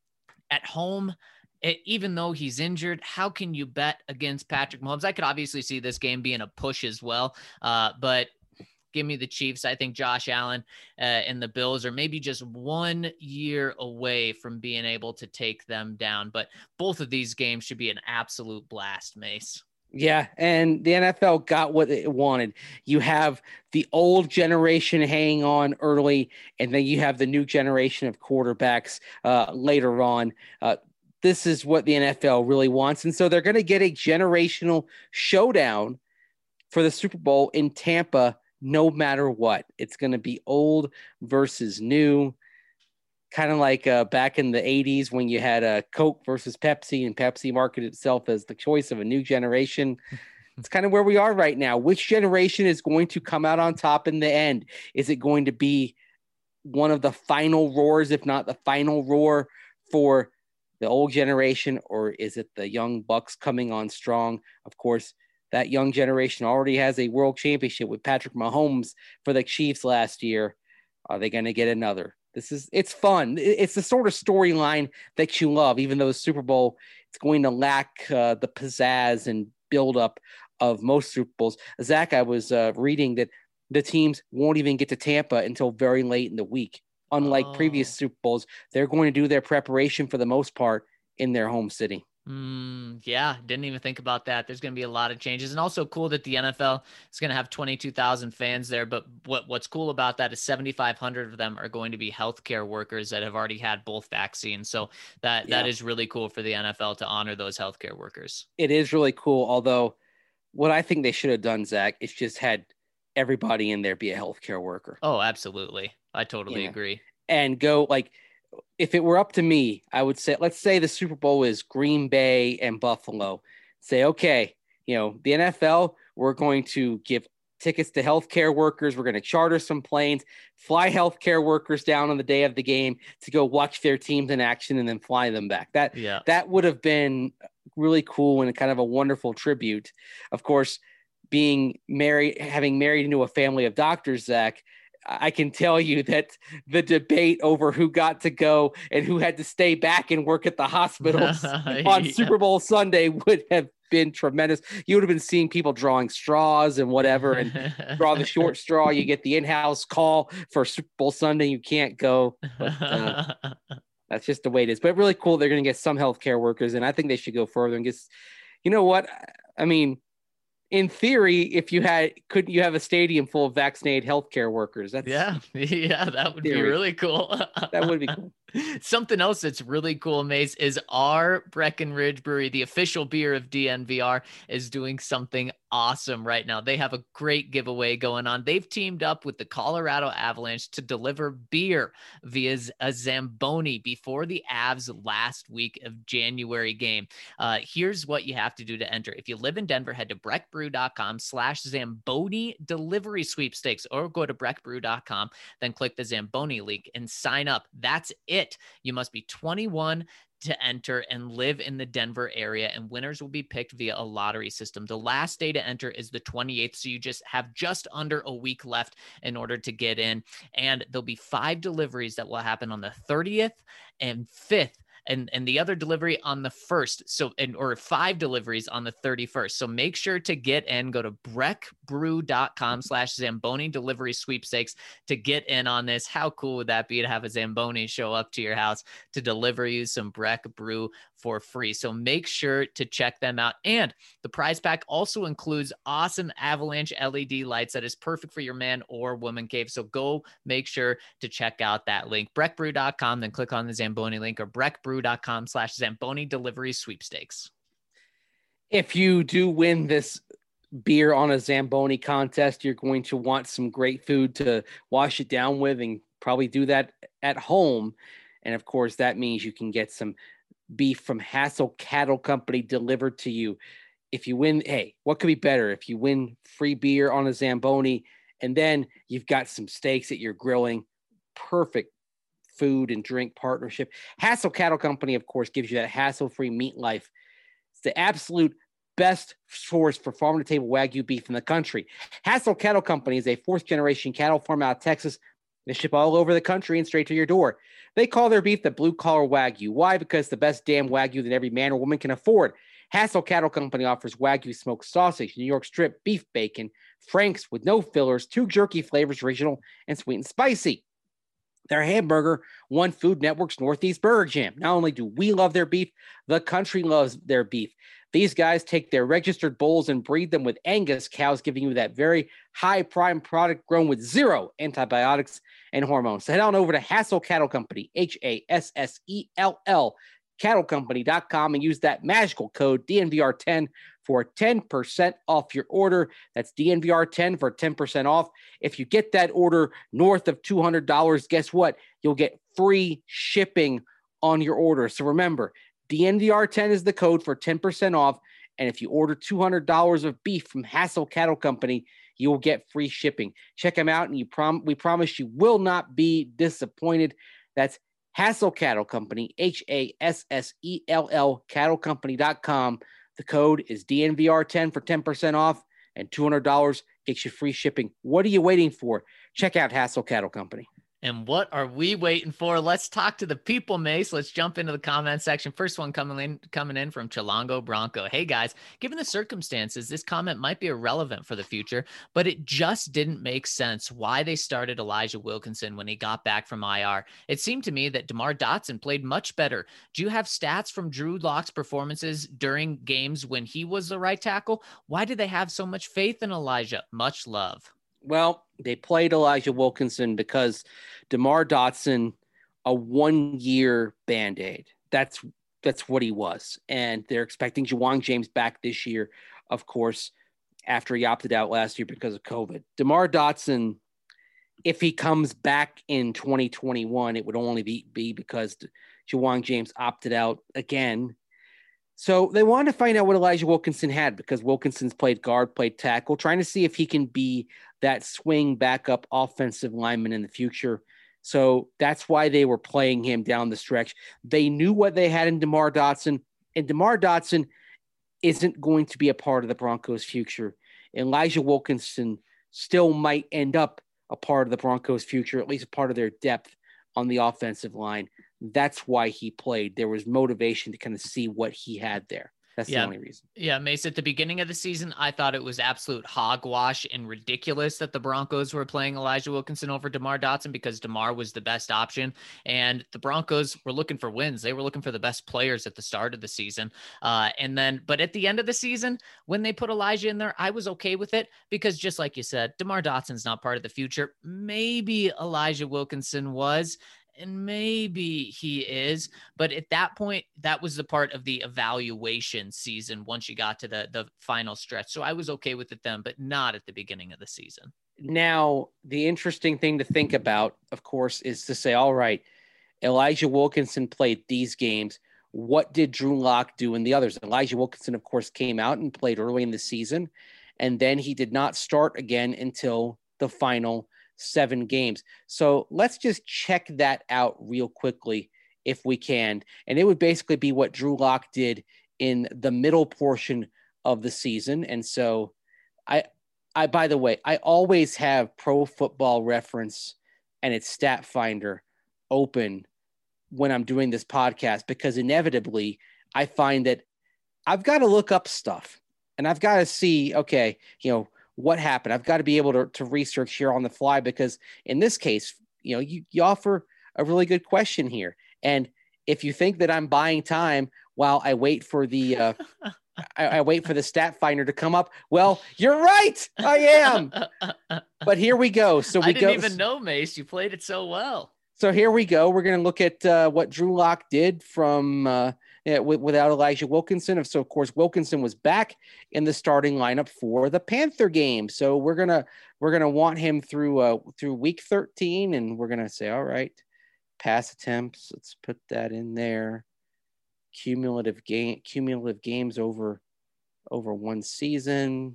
at home, even though he's injured, how can you bet against Patrick Mahomes? I could obviously see this game being a push as well, but give me the Chiefs. I think Josh Allen and the Bills are maybe just 1 year away from being able to take them down. But both of these games should be an absolute blast, Mace. Yeah, and the NFL got what it wanted. You have the old generation hanging on early, and then you have the new generation of quarterbacks later on. This is what the NFL really wants. And so they're going to get a generational showdown for the Super Bowl in Tampa no matter what. It's going to be old versus new, kind of like back in the 80s when you had Coke versus Pepsi, and Pepsi marketed itself as the choice of a new generation. It's kind of where we are right now. Which generation is going to come out on top in the end? Is it going to be one of the final roars, if not the final roar for the old generation, or is it the young Bucks coming on strong? Of course, that young generation already has a world championship with Patrick Mahomes for the Chiefs last year. Are they going to get another? It's fun. It's the sort of storyline that you love, even though the Super Bowl, it's going to lack the pizzazz and buildup of most Super Bowls. Zach, I was reading that the teams won't even get to Tampa until very late in the week. Unlike previous Super Bowls, they're going to do their preparation for the most part in their home city. Yeah, didn't even think about that. There's going to be a lot of changes, and also cool that the NFL is going to have 22,000 fans there. But what's cool about that is 7,500 of them are going to be healthcare workers that have already had both vaccines. So that is really cool for the NFL to honor those healthcare workers. It is really cool. Although what I think they should have done, Zach, is just had everybody in there be a healthcare worker. Oh, absolutely. I totally agree. And go like, if it were up to me, I would say, let's say the Super Bowl is Green Bay and Buffalo. Say, okay, the NFL, we're going to give tickets to healthcare workers. We're going to charter some planes, fly healthcare workers down on the day of the game to go watch their teams in action and then fly them back. That would have been really cool and kind of a wonderful tribute. Of course, having married into a family of doctors, Zach, I can tell you that the debate over who got to go and who had to stay back and work at the hospitals on Super Bowl Sunday would have been tremendous. You would have been seeing people drawing straws and whatever, and draw the short straw. You get the in-house call for Super Bowl Sunday. You can't go. But, that's just the way it is. But really cool. They're going to get some healthcare workers, and I think they should go further and just, you know what? I mean, in theory, couldn't you have a stadium full of vaccinated healthcare workers? Yeah, that would be really cool. That would be cool. Something else that's really cool, Mace, is our Breckenridge Brewery, the official beer of DNVR, is doing something awesome right now. They have a great giveaway going on. They've teamed up with the Colorado Avalanche to deliver beer via a Zamboni before the Avs last week of January game. Here's what you have to do to enter. If you live in Denver, head to breckbrew.com/Zamboni delivery sweepstakes, or go to breckbrew.com, then click the Zamboni link and sign up. That's it. You must be 21 to enter and live in the Denver area, and winners will be picked via a lottery system. The last day to enter is the 28th, so you just have just under a week left in order to get in. And there'll be 5 deliveries that will happen on the 30th and 5th. And the other delivery on the 1st. Or 5 deliveries on the 31st. So make sure to get in. Go to breckbrew.com/Zamboni delivery sweepstakes to get in on this. How cool would that be to have a Zamboni show up to your house to deliver you some Breck Brew for free? So make sure to check them out. And the prize pack also includes awesome Avalanche LED lights that is perfect for your man or woman cave. So go make sure to check out that link, breckbrew.com, then click on the Zamboni link, or breckbrew.com/Zamboni delivery sweepstakes. If you do win this beer on a Zamboni contest, you're going to want some great food to wash it down with, and probably do that at home. And of course, that means you can get some beef from Hassel Cattle Company delivered to you. If you win, hey, what could be better? If you win free beer on a Zamboni, and then you've got some steaks that you're grilling, perfect food and drink partnership. Hassel Cattle Company, of course, gives you that hassle-free meat life. It's the absolute best source for farm-to-table Wagyu beef in the country. Hassel Cattle Company is a 4th-generation cattle farm out of Texas. They ship all over the country and straight to your door. They call their beef the blue-collar Wagyu. Why? Because the best damn Wagyu that every man or woman can afford. Hassel Cattle Company offers Wagyu smoked sausage, New York strip, beef bacon, Franks with no fillers, 2 jerky flavors, original and sweet and spicy. Their hamburger won Food Network's Northeast Burger Jam. Not only do we love their beef, the country loves their beef. These guys take their registered bulls and breed them with Angus cows, giving you that very high prime product grown with 0 antibiotics and hormones. So head on over to Hassel Cattle Company, HASSELL, cattlecompany.com, and use that magical code DNVR10 for 10% off your order. That's DNVR10 for 10% off. If you get that order north of $200, guess what? You'll get free shipping on your order. So remember, DNVR10 is the code for 10% off. And if you order $200 of beef from Hassel Cattle Company, you will get free shipping. Check them out, and we promise you will not be disappointed. That's Hassel Cattle Company, HASSELL, cattlecompany.com. The code is DNVR10 for 10% off, and $200 gets you free shipping. What are you waiting for? Check out Hassel Cattle Company. And what are we waiting for? Let's talk to the people, Mace. Let's jump into the comment section. First one coming in from Chilango Bronco. Hey guys, given the circumstances, this comment might be irrelevant for the future, but it just didn't make sense why they started Elijah Wilkinson when he got back from IR. It seemed to me that DeMar Dotson played much better. Do you have stats from Drew Lock's performances during games when he was the right tackle? Why do they have so much faith in Elijah? Much love. Well, they played Elijah Wilkinson because DeMar Dotson, a 1-year Band-Aid. That's what he was. And they're expecting Ja'Wuan James back this year, of course, after he opted out last year because of COVID. DeMar Dotson, if he comes back in 2021, it would only be because Ja'Wuan James opted out again. So they wanted to find out what Elijah Wilkinson had, because Wilkinson's played guard, played tackle, trying to see if he can be that swing backup offensive lineman in the future. So that's why they were playing him down the stretch. They knew what they had in DeMar Dotson, and DeMar Dotson isn't going to be a part of the Broncos' future. Elijah Wilkinson still might end up a part of the Broncos' future, at least a part of their depth on the offensive line. That's why he played. There was motivation to kind of see what he had there. That's the only reason. Yeah, Mace, at the beginning of the season, I thought it was absolute hogwash and ridiculous that the Broncos were playing Elijah Wilkinson over DeMar Dotson, because DeMar was the best option. And the Broncos were looking for wins. They were looking for the best players at the start of the season. But at the end of the season, when they put Elijah in there, I was okay with it, because just like you said, DeMar Dotson's not part of the future. Maybe Elijah Wilkinson was. and maybe he is, but at that point, that was the part of the evaluation season once you got to the final stretch. So I was okay with it then, but not at the beginning of the season. Now, the interesting thing to think about, of course, is to say, all right, Elijah Wilkinson played these games. What did Drew Lock do in the others? Elijah Wilkinson, of course, came out and played early in the season, and then he did not start again until the final 7 games. So let's just check that out real quickly if we can. And it would basically be what Drew Lock did in the middle portion of the season. And so I by the way, I always have Pro Football Reference and its Stat Finder open when I'm doing this podcast, because inevitably I find that I've got to look up stuff and I've got to see, okay, what happened. I've got to be able to research here on the fly, because in this case, you offer a really good question here. And if you think that I'm buying time while I wait for the I wait for the Stat Finder to come up, well, you're right, I am. But here we go. So I didn't even know, Mace. You played it so well. So here we go. We're going to look at what Drew Lock did from without Elijah Wilkinson. So, of course, Wilkinson was back in the starting lineup for the Panther game. So we're gonna want him through week 13, and we're gonna say, all right, pass attempts. Let's put that in there. Cumulative games over one season.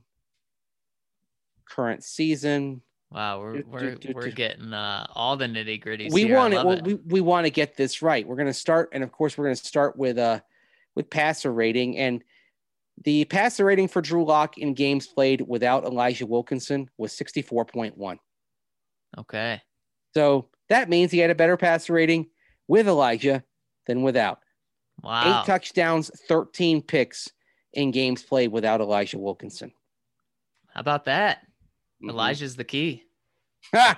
Current season. Wow, we're getting all the nitty gritties. We want to get this right. We're going to start, and of course, we're going to start with passer rating, and the passer rating for Drew Lock in games played without Elijah Wilkinson was 64.1. Okay, so that means he had a better passer rating with Elijah than without. Wow, 8 touchdowns, 13 picks in games played without Elijah Wilkinson. How about that? Elijah's the key. Well,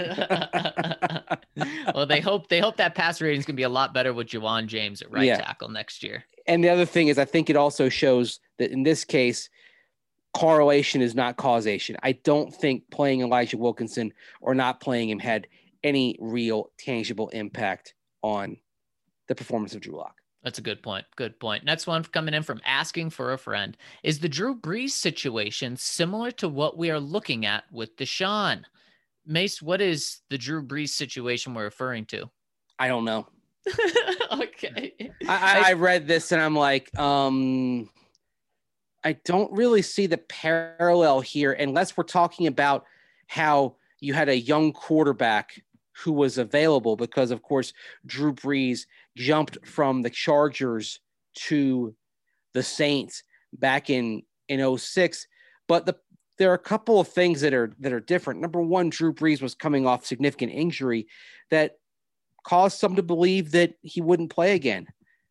they hope that pass rating is going to be a lot better with Ja'Wuan James at right tackle next year. And the other thing is, I think it also shows that in this case, correlation is not causation. I don't think playing Elijah Wilkinson or not playing him had any real tangible impact on the performance of Drew Lock. That's a good point. Good point. Next one coming in from Asking for a Friend. Is the Drew Brees situation similar to what we are looking at with Deshaun? Mace, what is the Drew Brees situation we're referring to? I don't know. Okay. I read this and I'm like, I don't really see the parallel here, unless we're talking about how you had a young quarterback who was available, because of course Drew Brees jumped from the Chargers to the Saints back in 06. But there are a couple of things that are different. Number one, Drew Brees was coming off significant injury that caused some to believe that he wouldn't play again.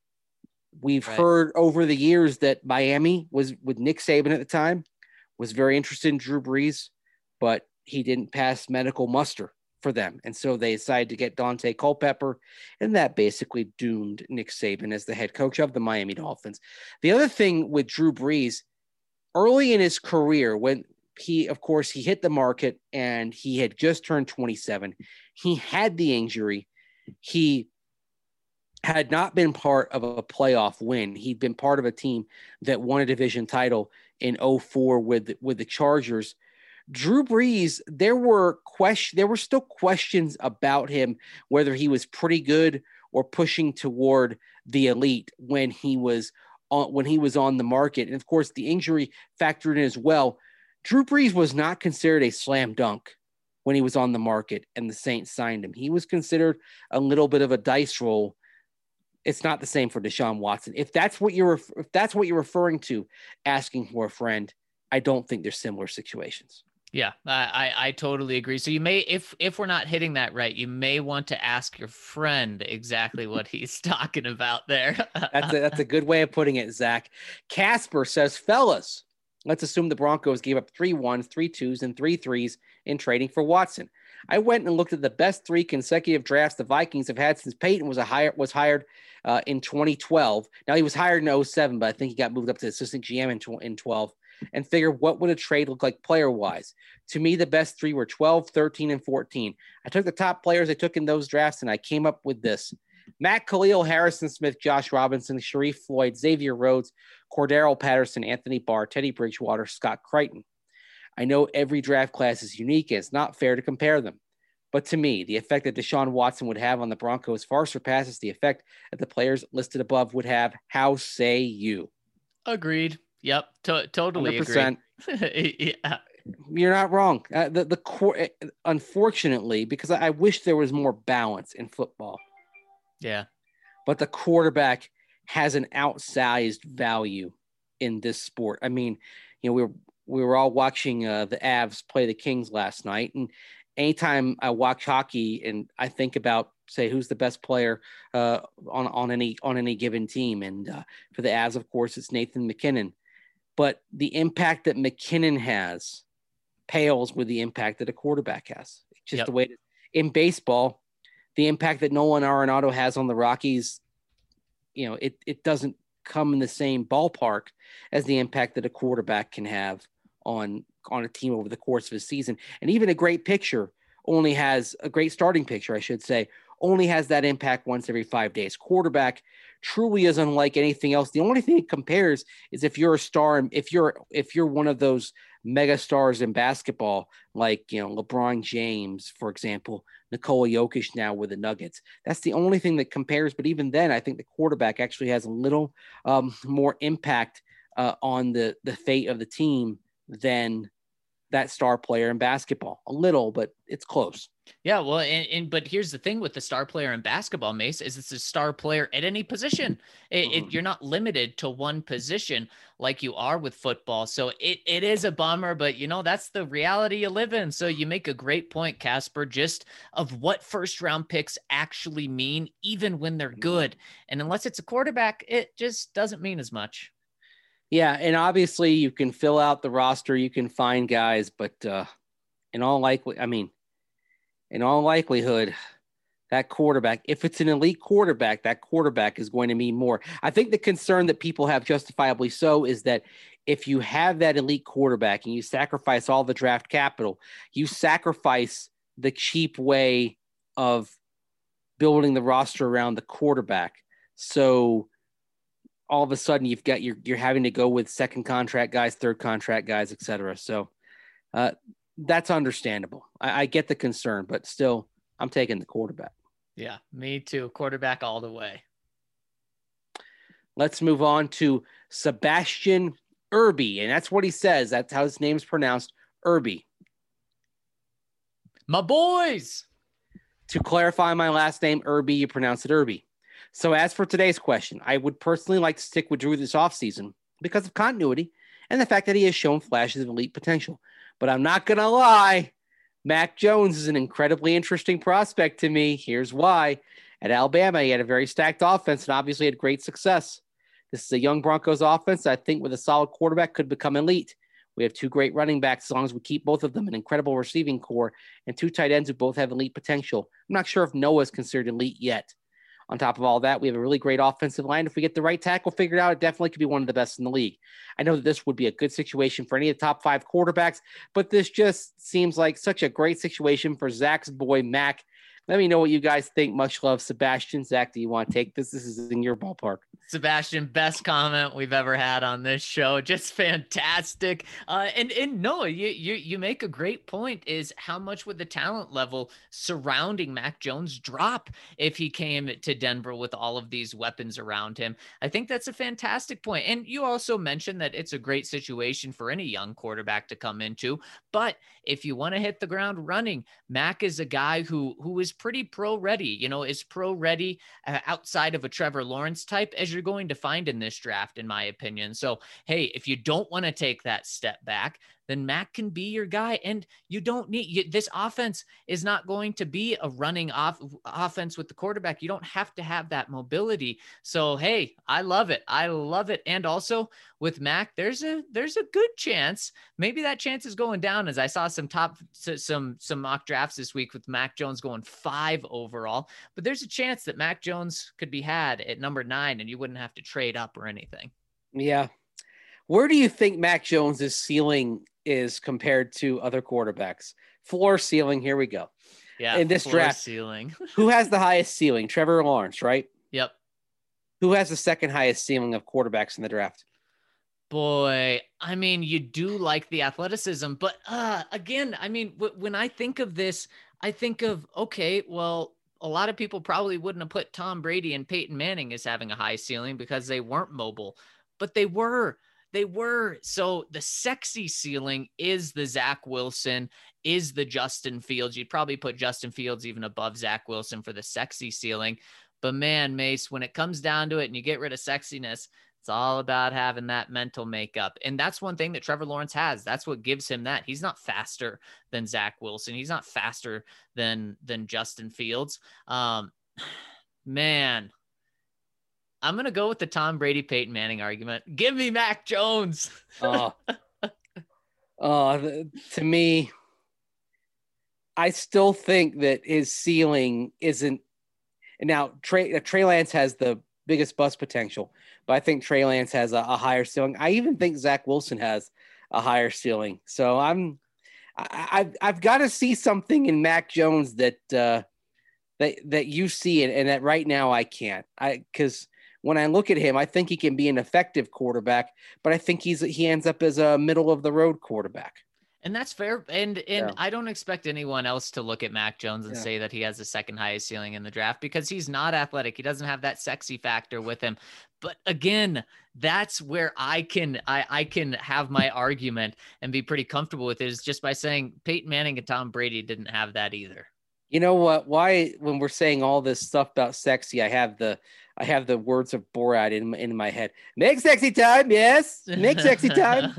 We've heard over the years that Miami was, with Nick Saban at the time, was very interested in Drew Brees, but he didn't pass medical muster for them. And so they decided to get Dante Culpepper, and that basically doomed Nick Saban as the head coach of the Miami Dolphins. The other thing with Drew Brees, early in his career, when he hit the market and he had just turned 27, he had the injury. He had not been part of a playoff win. He'd been part of a team that won a division title in 04 with the Chargers. Drew Brees, there were still questions about him, whether he was pretty good or pushing toward the elite when he was on the market. And of course, the injury factored in as well. Drew Brees was not considered a slam dunk when he was on the market and the Saints signed him. He was considered a little bit of a dice roll. It's not the same for Deshaun Watson. If that's what you're referring to, asking for a friend, I don't think they're similar situations. Yeah, I totally agree. So you may, if we're not hitting that right, you may want to ask your friend exactly what he's talking about there. That's a good way of putting it, Zach. Casper says, fellas, let's assume the Broncos gave up 3 1s, 3 2s, and 3 3s in trading for Watson. I went and looked at the best 3 consecutive drafts the Vikings have had since Peyton was hired in 2012. Now, he was hired in 07, but I think he got moved up to assistant GM in 12. and figure what would a trade look like player-wise. To me, the best three were 12, 13, and 14. I took the top players I took in those drafts, and I came up with this. Matt Khalil, Harrison Smith, Josh Robinson, Sharif Floyd, Xavier Rhodes, Cordero Patterson, Anthony Barr, Teddy Bridgewater, Scott Crichton. I know every draft class is unique, and it's not fair to compare them. But to me, the effect that Deshaun Watson would have on the Broncos far surpasses the effect that the players listed above would have. How say you? Agreed. Yep. Totally 100%. agree. Yeah. You're not wrong. The core, unfortunately, because I wish there was more balance in football. Yeah. But the quarterback has an outsized value in this sport. I mean, you know, we were all watching the Avs play the Kings last night, and anytime I watch hockey and I think about, say, who's the best player on any given team, and for the Avs, of course, it's Nathan MacKinnon. But the impact that McKinnon has pales with the impact that a quarterback has. It's just the way it is. In baseball, the impact that Nolan Arenado has on the Rockies, you know, it doesn't come in the same ballpark as the impact that a quarterback can have on a team over the course of a season. And even a great starting pitcher, I should say, only has that impact once every 5 days. Quarterback truly is unlike anything else. The only thing it compares is if you're a star, if you're one of those mega stars in basketball, like, you know, LeBron James, for example, Nikola Jokic now with the Nuggets. That's the only thing that compares. But even then, I think the quarterback actually has a little more impact on the fate of the team than that star player in basketball. A little, but it's close. Yeah, well, but here's the thing with the star player in basketball, Mace, is it's a star player at any position. You're not limited to one position like you are with football. So it is a bummer, but, you know, that's the reality you live in. So you make a great point, Casper, just of what first round picks actually mean, even when they're good. And unless it's a quarterback, it just doesn't mean as much. Yeah, and obviously you can fill out the roster, you can find guys, but in all likelihood, that quarterback, if it's an elite quarterback, that quarterback is going to mean more. I think the concern that people have, justifiably so, is that if you have that elite quarterback and you sacrifice all the draft capital, you sacrifice the cheap way of building the roster around the quarterback. So all of a sudden you're having to go with second contract guys, third contract guys, et cetera. So that's understandable. I get the concern, but still I'm taking the quarterback. Yeah, me too. Quarterback all the way. Let's move on to Sebastian Irby. And that's what he says. That's how his name's pronounced, Irby. My boys. To clarify my last name, Irby, you pronounce it Irby. So as for today's question, I would personally like to stick with Drew this offseason because of continuity and the fact that he has shown flashes of elite potential. But I'm not going to lie, Mac Jones is an incredibly interesting prospect to me. Here's why. At Alabama, he had a very stacked offense and obviously had great success. This is a young Broncos offense that I think with a solid quarterback could become elite. We have two great running backs as long as we keep both of them, an incredible receiving core, and two tight ends who both have elite potential. I'm not sure if Noah is considered elite yet. On top of all that, we have a really great offensive line. If we get the right tackle figured out, it definitely could be one of the best in the league. I know that this would be a good situation for any of the top five quarterbacks, but this just seems like such a great situation for Zach's boy, Mac. Let me know what you guys think. Much love, Sebastian. Zach, do you want to take this? This is in your ballpark. Sebastian, best comment we've ever had on this show. Just fantastic. And Noah, you make a great point, is how much would the talent level surrounding Mac Jones drop if he came to Denver with all of these weapons around him? I think that's a fantastic point. And you also mentioned that it's a great situation for any young quarterback to come into. But if you want to hit the ground running, Mac is a guy who is pretty pro ready, is pro ready outside of a Trevor Lawrence type, as you're going to find in this draft, in my opinion. So, hey, if you don't want to take that step back, then Mac can be your guy. And you don't need this offense is not going to be a running offense with the quarterback. You don't have to have that mobility. So, hey, I love it. I love it. And also with Mac, there's a good chance. Maybe that chance is going down, as I saw some mock drafts this week with Mac Jones going 5 overall. But there's a chance that Mac Jones could be had at number 9 and you wouldn't have to trade up or anything. Yeah. Where do you think Mac Jones's ceiling is compared to other quarterbacks? Floor, ceiling. Here we go. Yeah, In this floor draft, ceiling. who has the highest ceiling? Trevor Lawrence, right? Yep. Who has the second highest ceiling of quarterbacks in the draft? Boy, I mean, you do like the athleticism, but again, I mean, when I think of this, I think of, okay, well, a lot of people probably wouldn't have put Tom Brady and Peyton Manning as having a high ceiling because they weren't mobile, but they were. They were. So the sexy ceiling is the Zach Wilson, is the Justin Fields. You'd probably put Justin Fields even above Zach Wilson for the sexy ceiling. But man, Mace, when it comes down to it and you get rid of sexiness, it's all about having that mental makeup. And that's one thing that Trevor Lawrence has. That's what gives him that. He's not faster than Zach Wilson. He's not faster than Justin Fields. Man, I'm going to go with the Tom Brady, Peyton Manning argument. Give me Mac Jones. To me, I still think that his ceiling isn't. And now Trey Lance has the biggest bust potential, but I think Trey Lance has a higher ceiling. I even think Zach Wilson has a higher ceiling. So I've got to see something in Mac Jones that you see it, and that right now I can't. Because when I look at him, I think he can be an effective quarterback, but I think he ends up as a middle of the road quarterback. And that's fair. And I don't expect anyone else to look at Mac Jones and say that he has the second highest ceiling in the draft because he's not athletic. He doesn't have that sexy factor with him. But again, that's where I can have my argument and be pretty comfortable with it, is just by saying Peyton Manning and Tom Brady didn't have that either. You know what? Why, when we're saying all this stuff about sexy, I have the words of Borat in my head. Make sexy time, yes. Make sexy time.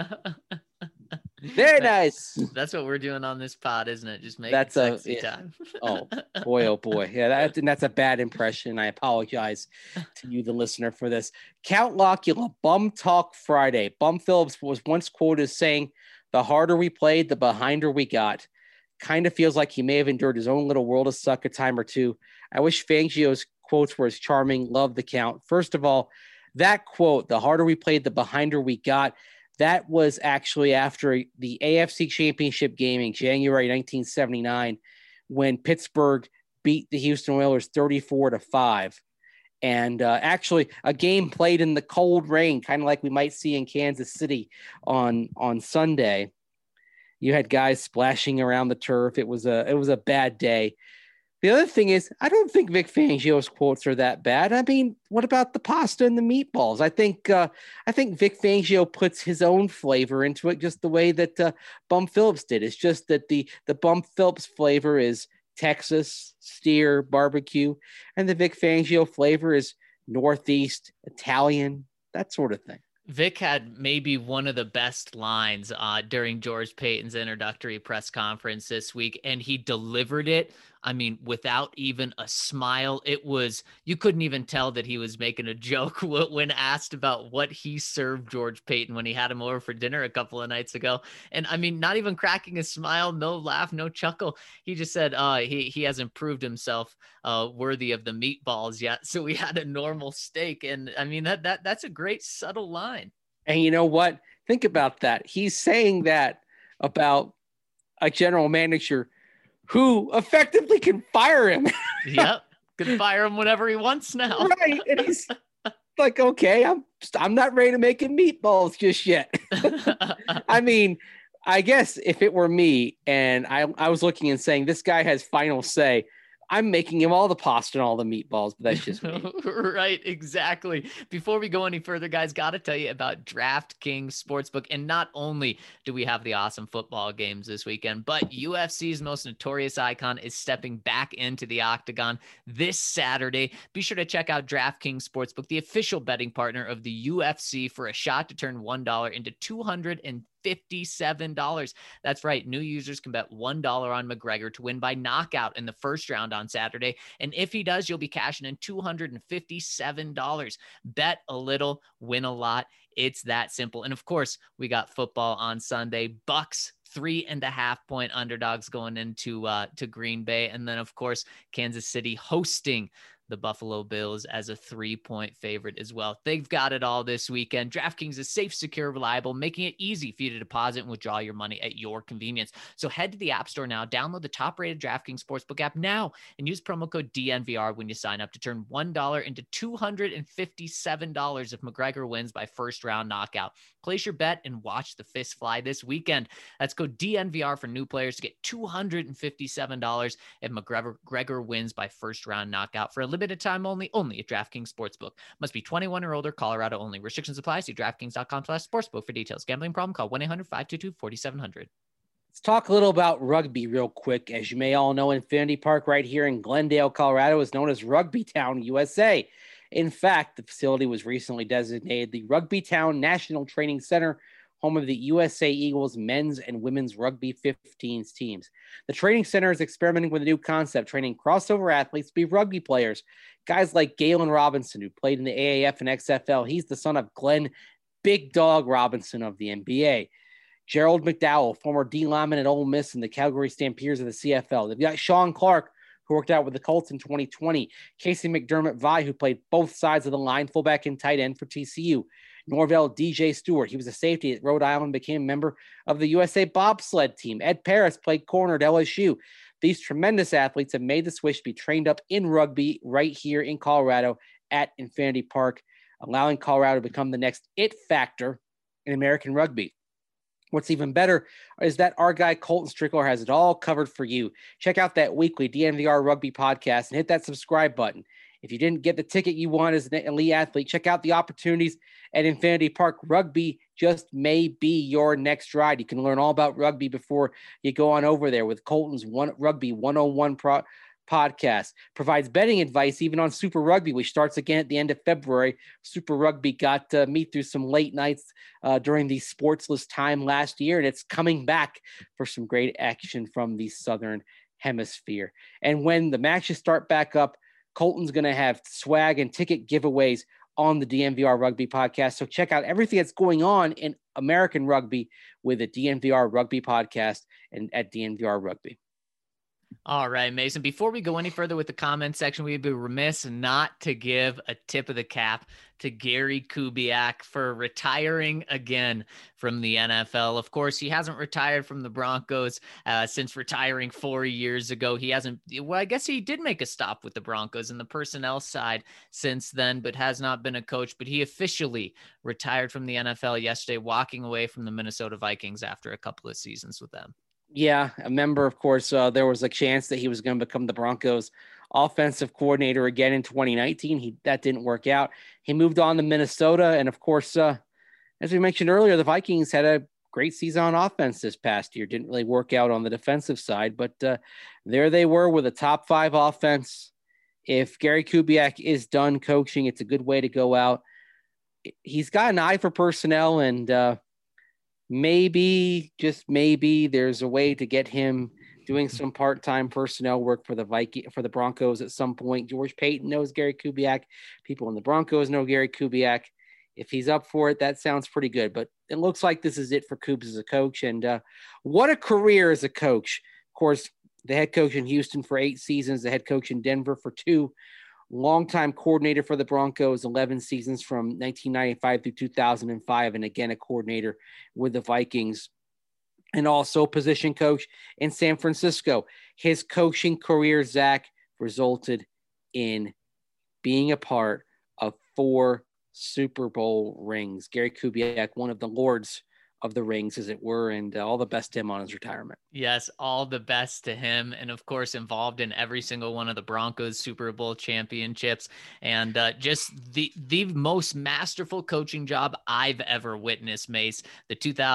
Very nice. That's what we're doing on this pod, isn't it? Just make sexy time. Oh boy. Yeah, that's a bad impression. I apologize to you, the listener, for this. Count Locula, Bum Talk Friday. Bum Phillips was once quoted as saying, "The harder we played, the behinder we got." Kind of feels like he may have endured his own little world of suck a time or two. I wish Fangio's quotes were as charming. Love the count. First of all, that quote, "The harder we played, the behinder we got," that was actually after the AFC Championship game in January 1979, when Pittsburgh beat the Houston Oilers 34-5. And actually a game played in the cold rain, kind of like we might see in Kansas City on Sunday. You had guys splashing around the turf. It was a bad day. The other thing is, I don't think Vic Fangio's quotes are that bad. I mean, what about the pasta and the meatballs? I think Vic Fangio puts his own flavor into it, just the way that Bum Phillips did. It's just that the Bum Phillips flavor is Texas, steer, barbecue, and the Vic Fangio flavor is Northeast, Italian, that sort of thing. Vic had maybe one of the best lines during George Paton's introductory press conference this week, and he delivered it, I mean, without even a smile. It was, you couldn't even tell that he was making a joke when asked about what he served George Paton when he had him over for dinner a couple of nights ago. And I mean, not even cracking a smile, no laugh, no chuckle. He just said he hasn't proved himself worthy of the meatballs yet. So we had a normal steak. And I mean, that's a great subtle line. And you know what? Think about that. He's saying that about a general manager who effectively can fire him. Yep. Can fire him whenever he wants now. Right. And he's like, okay, I'm not ready to make him meatballs just yet. I mean, I guess if it were me and I was looking and saying, this guy has final say, I'm making him all the pasta and all the meatballs, but that's just me. Right, exactly. Before we go any further, guys, got to tell you about DraftKings Sportsbook. And not only do we have the awesome football games this weekend, but UFC's most notorious icon is stepping back into the octagon this Saturday. Be sure to check out DraftKings Sportsbook, the official betting partner of the UFC, for a shot to turn $1 into $257. That's right. New users can bet $1 on McGregor to win by knockout in the first round on Saturday. And if he does, you'll be cashing in $257. Bet a little, win a lot. It's that simple. And of course, we got football on Sunday. Bucks 3.5-point underdogs going into to Green Bay. And then, of course, Kansas City hosting the Buffalo Bills as a 3-point favorite as well. They've got it all this weekend. DraftKings is safe, secure, reliable, making it easy for you to deposit and withdraw your money at your convenience. So head to the App Store now, download the top-rated DraftKings Sportsbook app now, and use promo code DNVR when you sign up to turn $1 into $257 if McGregor wins by first-round knockout. Place your bet and watch the fist fly this weekend. That's code DNVR for new players to get $257 if McGregor wins by first-round knockout for a limited time only at DraftKings Sportsbook. Must be 21 or older, Colorado only. Restrictions apply. See DraftKings.com/sportsbook for details. Gambling problem? Call 1-800-522-4700. Let's talk a little about rugby real quick. As you may all know, Infinity Park right here in Glendale, Colorado is known as Rugby Town, USA. In fact, the facility was recently designated the Rugby Town National Training Center, home of the USA Eagles men's and women's rugby 15s teams. The training center is experimenting with a new concept, training crossover athletes to be rugby players. Guys like Galen Robinson, who played in the AAF and XFL. He's the son of Glenn Big Dog Robinson of the NBA. Gerald McDowell, former D lineman at Ole Miss and the Calgary Stampeders of the CFL. They've got Sean Clark, who worked out with the Colts in 2020. Casey McDermott-Vie, who played both sides of the line, fullback and tight end for TCU. Norvell DJ Stewart, he was a safety at Rhode Island, became a member of the USA bobsled team. Ed Paris played corner at LSU. These tremendous athletes have made the switch to be trained up in rugby right here in Colorado at Infinity Park, allowing Colorado to become the next it factor in American rugby. What's even better is that our guy Colton Strickler has it all covered for you. Check out that weekly DNVR Rugby podcast and hit that subscribe button. If you didn't get the ticket you want as an elite athlete, check out the opportunities at Infinity Park. Rugby just may be your next ride. You can learn all about rugby before you go on over there with Colton's Rugby 101 podcast. Provides betting advice even on Super Rugby, which starts again at the end of February. Super Rugby got me through some late nights during the sportsless time last year, and it's coming back for some great action from the Southern Hemisphere. And when the matches start back up, Colton's going to have swag and ticket giveaways on the DNVR Rugby podcast. So check out everything that's going on in American rugby with the DNVR Rugby podcast and at DNVR Rugby. All right, Mason, before we go any further with the comment section, we'd be remiss not to give a tip of the cap to Gary Kubiak for retiring again from the NFL. Of course, he hasn't retired from the Broncos since retiring 4 years ago. He hasn't, well, I guess he did make a stop with the Broncos in the personnel side since then, but has not been a coach. But he officially retired from the NFL yesterday, walking away from the Minnesota Vikings after a couple of seasons with them. Yeah, I remember, of course, there was a chance that he was going to become the Broncos offensive coordinator again in 2019. That didn't work out. He moved on to Minnesota. And of course, as we mentioned earlier, the Vikings had a great season on offense this past year. Didn't really work out on the defensive side, but there they were with a top 5 offense. If Gary Kubiak is done coaching, it's a good way to go out. He's got an eye for personnel, and maybe, just maybe, there's a way to get him doing some part-time personnel work for the Broncos at some point. George Payton knows Gary Kubiak. People in the Broncos know Gary Kubiak. If he's up for it, that sounds pretty good. But it looks like this is it for Kubes as a coach. And what a career as a coach. Of course, the head coach in Houston for 8 seasons, the head coach in Denver for 2. Longtime coordinator for the Broncos, 11 seasons from 1995 through 2005, and again, a coordinator with the Vikings, and also position coach in San Francisco. His coaching career, Zach, resulted in being a part of 4 Super Bowl rings. Gary Kubiak, one of the lords of the rings, as it were, and all the best to him on his retirement. Yes, all the best to him, and of course involved in every single one of the Broncos Super Bowl championships, and just the most masterful coaching job I've ever witnessed, Mace. The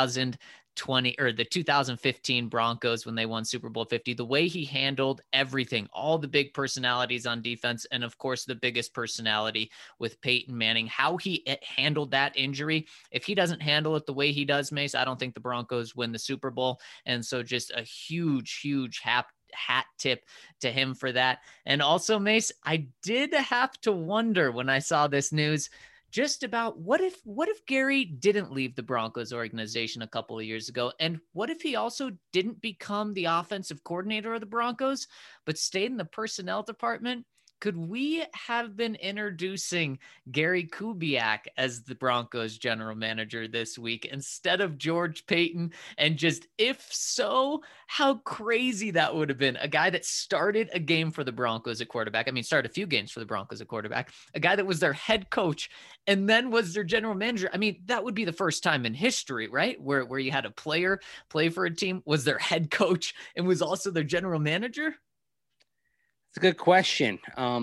2015 Broncos, when they won Super Bowl 50, the way he handled everything, all the big personalities on defense, and of course the biggest personality with Peyton Manning, how he handled that injury. If he doesn't handle it the way he does, Mace, I don't think the Broncos win the Super Bowl. And so just a huge hat tip to him for that. And also, Mace, I did have to wonder when I saw this news just about what if Gary didn't leave the Broncos organization a couple of years ago? And what if he also didn't become the offensive coordinator of the Broncos, but stayed in the personnel department? could we have been introducing Gary Kubiak as the Broncos general manager this week instead of George Payton? And just, if so, how crazy that would have been. A guy that started a game for the Broncos at quarterback. I mean, started a few games for the Broncos at quarterback. A guy that was their head coach and then was their general manager. I mean, that would be the first time in history, right? Where you had a player play for a team, was their head coach, and was also their general manager. It's a good question.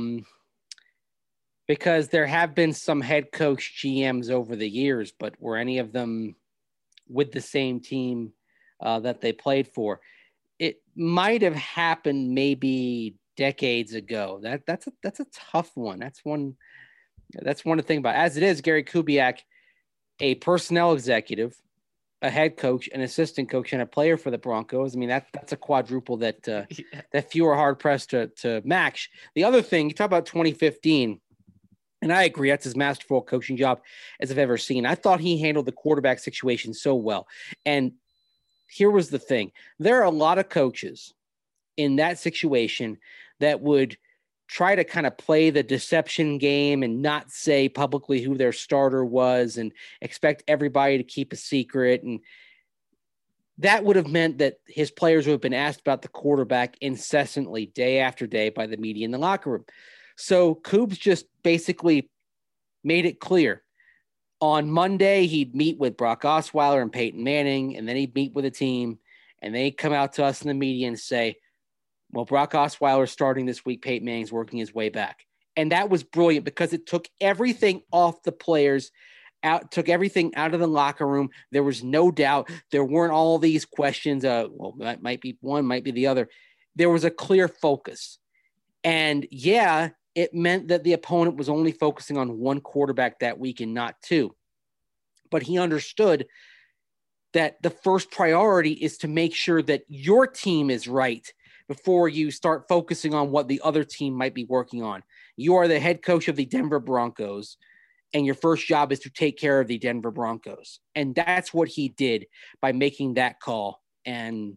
Because there have been some head coach GMs over the years, but were any of them with the same team that they played for? It might have happened maybe decades ago. That's a tough one. That's one to think about. As it is, Gary Kubiak, a personnel executive, a head coach, an assistant coach, and a player for the Broncos. I mean, that's a quadruple that that few are hard pressed to match. The other thing, you talk about 2015, and I agree, that's as masterful coaching job as I've ever seen. I thought he handled the quarterback situation so well. And here was the thing. There are a lot of coaches in that situation that would try to kind of play the deception game and not say publicly who their starter was and expect everybody to keep a secret. And that would have meant that his players would have been asked about the quarterback incessantly, day after day, by the media in the locker room. So Coobs just basically made it clear. On Monday, he'd meet with Brock Osweiler and Peyton Manning, and then he'd meet with a team, and they'd come out to us in the media and say, well, Brock Osweiler's starting this week. Peyton Manning's working his way back. And that was brilliant because it took everything off the players, took everything out of the locker room. There was no doubt. There weren't all these questions. Well, that might be one, might be the other. There was a clear focus. And yeah, it meant that the opponent was only focusing on one quarterback that week and not two. But he understood that the first priority is to make sure that your team is right before you start focusing on what the other team might be working on. You are the head coach of the Denver Broncos, and your first job is to take care of the Denver Broncos. And that's what he did by making that call. And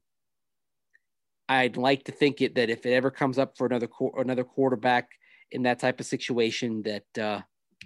I'd like to think that if it ever comes up for another quarterback in that type of situation, that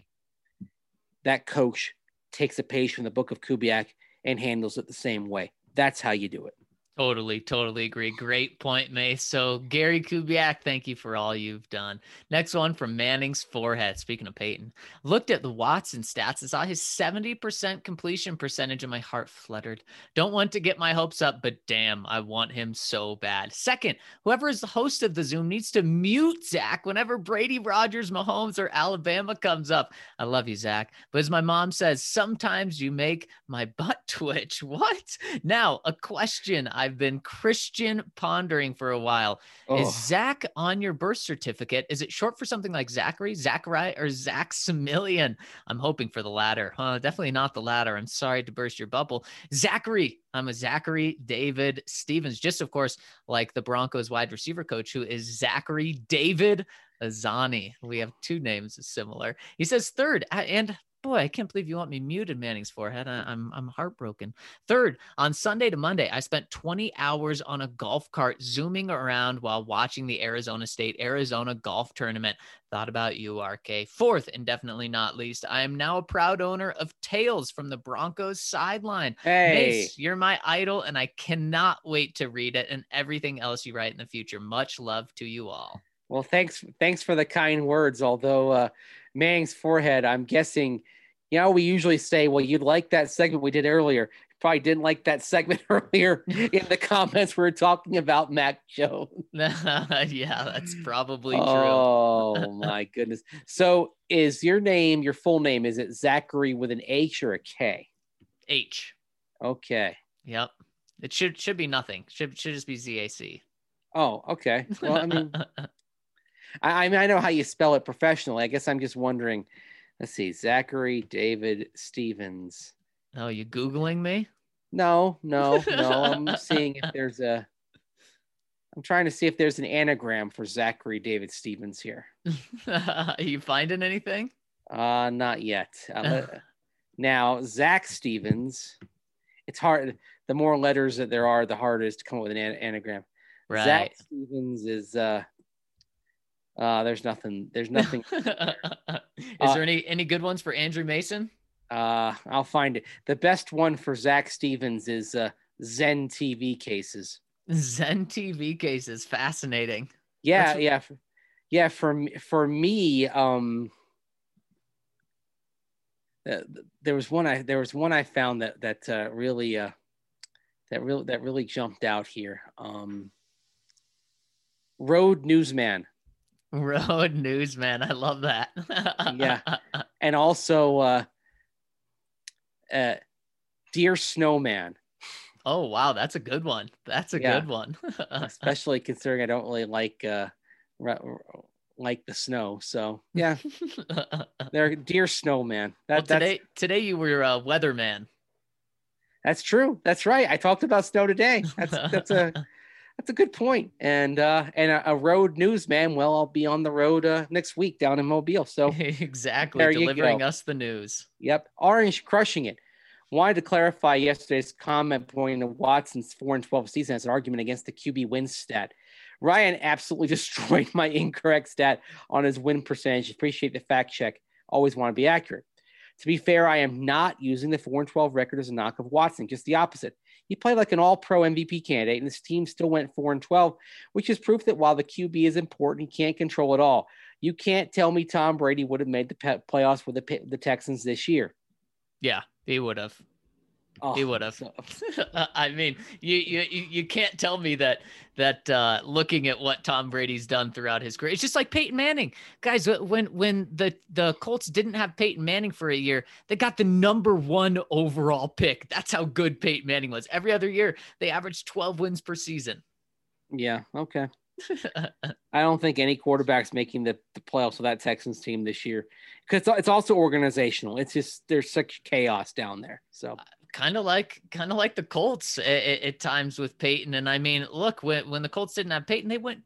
that coach takes a page from the book of Kubiak and handles it the same way. That's how you do it. Totally agree. Great point, Mace. So Gary Kubiak, thank you for all you've done. Next one from Manning's forehead. Speaking of Peyton, looked at the Watson stats and saw his 70% completion percentage and my heart fluttered. Don't want to get my hopes up, but damn, I want him so bad. Second, whoever is the host of the Zoom needs to mute Zach whenever Brady, Rogers, Mahomes, or Alabama comes up. I love you, Zach. But as my mom says, sometimes you make my butt twitch. What? Now, a question I've been Christian pondering for a while. Is Zach on your birth certificate? Is it short for something like Zachary, or Zaxamillion? I'm hoping for the latter. Definitely not the latter. I'm sorry to burst your bubble. Zachary. I'm a Zachary David Stevens, just of course, like the Broncos wide receiver coach, who is Zachary David Azani. We have two names similar. He says third, and boy, I can't believe you want me muted, Manning's forehead. I'm heartbroken. Third, on Sunday to Monday, I spent 20 hours on a golf cart zooming around while watching the Arizona State Arizona golf tournament. Thought about you, RK. Fourth, and definitely not least, I am now a proud owner of Tales from the Broncos sideline. Hey, Mace, you're my idol, and I cannot wait to read it and everything else you write in the future. Much love to you all. Well, thanks for the kind words. Although Manning's forehead, I'm guessing, we usually say, well, you'd like that segment we did earlier. Probably didn't like that segment earlier in the comments. We were talking about Mac Jones. Yeah, that's probably true. Oh, my goodness. So is your full name, is it Zachary with an H or a K? H. Okay. Yep. It should be nothing. Should just be ZAC. Oh, okay. Well, I mean, I know how you spell it professionally. I guess I'm just wondering. Let's see, Zachary David Stevens. Oh, you Googling me? No. I'm seeing if there's I'm trying to see if there's an anagram for Zachary David Stevens here. Are you finding anything? Not yet. Now, Zach Stevens, it's hard. The more letters that there are, the harder it is to come up with an anagram. Right. Zach Stevens is There's nothing. There's nothing. Is there any good ones for Andrew Mason? I'll find it. The best one for Zach Stevens is Zen TV cases. Zen TV cases, fascinating. Yeah. For me, there was one I found that really jumped out here. Road Newsman. Road Newsman, I love that. Yeah, and also Dear Snowman. Oh wow, that's a good one. That's a good one. Especially considering I don't really like the snow. So yeah, they're Dear Snowman. Today you were a weatherman. That's true. That's right. I talked about snow today. That's a good point. And a road newsman. Well, I'll be on the road next week down in Mobile. So exactly, delivering us the news. Yep. Orange crushing it. Wanted to clarify yesterday's comment pointing to Watson's 4-12 season as an argument against the QB win stat. Ryan absolutely destroyed my incorrect stat on his win percentage. Appreciate the fact check. Always want to be accurate. To be fair, I am not using the 4-12 record as a knock of Watson, just the opposite. He played like an all-pro MVP candidate, and his team still went 4-12, which is proof that while the QB is important, he can't control it all. You can't tell me Tom Brady would have made the playoffs with the Texans this year. Yeah, he would have. He would have. I mean, you can't tell me that looking at what Tom Brady's done throughout his career, it's just like Peyton Manning. Guys, when the Colts didn't have Peyton Manning for a year, they got the #1 overall pick. That's how good Peyton Manning was. Every other year, they averaged 12 wins per season. Yeah, okay. I don't think any quarterback's making the playoffs with that Texans team this year, because it's also organizational. It's just there's such chaos down there. So kind of like the Colts at times with Peyton. And I mean, look, when the Colts didn't have Peyton, they went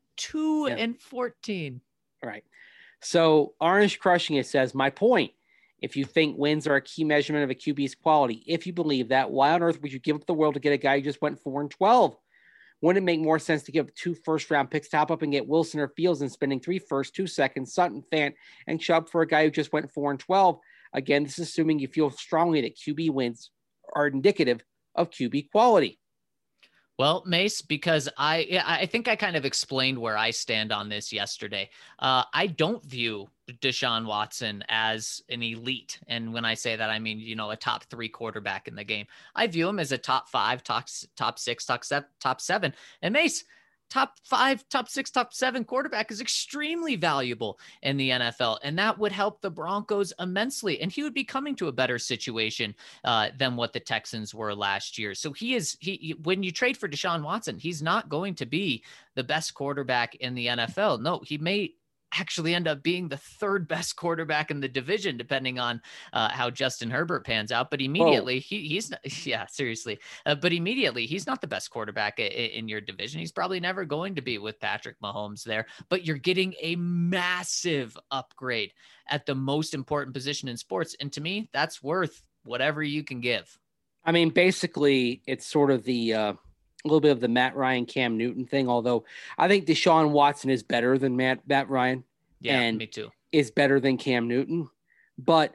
2-14. Right. So Orange Crushing It says, my point, if you think wins are a key measurement of a QB's quality, if you believe that, why on earth would you give up the world to get a guy who just went 4-12? Wouldn't it make more sense to give up 2 first-round picks, top up and get Wilson or Fields and spending 3 firsts, 2 seconds, Sutton, Fant, and Chubb for a guy who just went 4-12? Again, this is assuming you feel strongly that QB wins are indicative of QB quality. Well, Mace, because I think I kind of explained where I stand on this yesterday. I don't view Deshaun Watson as an elite. And when I say that, I mean, a top 3 quarterback in the game. I view him as a top 5, top 6, top 7. And Mace, top 5, top 6, top 7 quarterback is extremely valuable in the NFL. And that would help the Broncos immensely. And he would be coming to a better situation than what the Texans were last year. So when you trade for Deshaun Watson, he's not going to be the best quarterback in the NFL. No, he may actually end up being the 3rd best quarterback in the division, depending on how Justin Herbert pans out. But immediately he's not, yeah, seriously. But immediately he's not the best quarterback in your division. He's probably never going to be with Patrick Mahomes there, but you're getting a massive upgrade at the most important position in sports. And to me, that's worth whatever you can give. I mean, basically it's sort of a little bit of the Matt Ryan, Cam Newton thing, although I think Deshaun Watson is better than Matt Ryan. Yeah, and me too. Is better than Cam Newton. But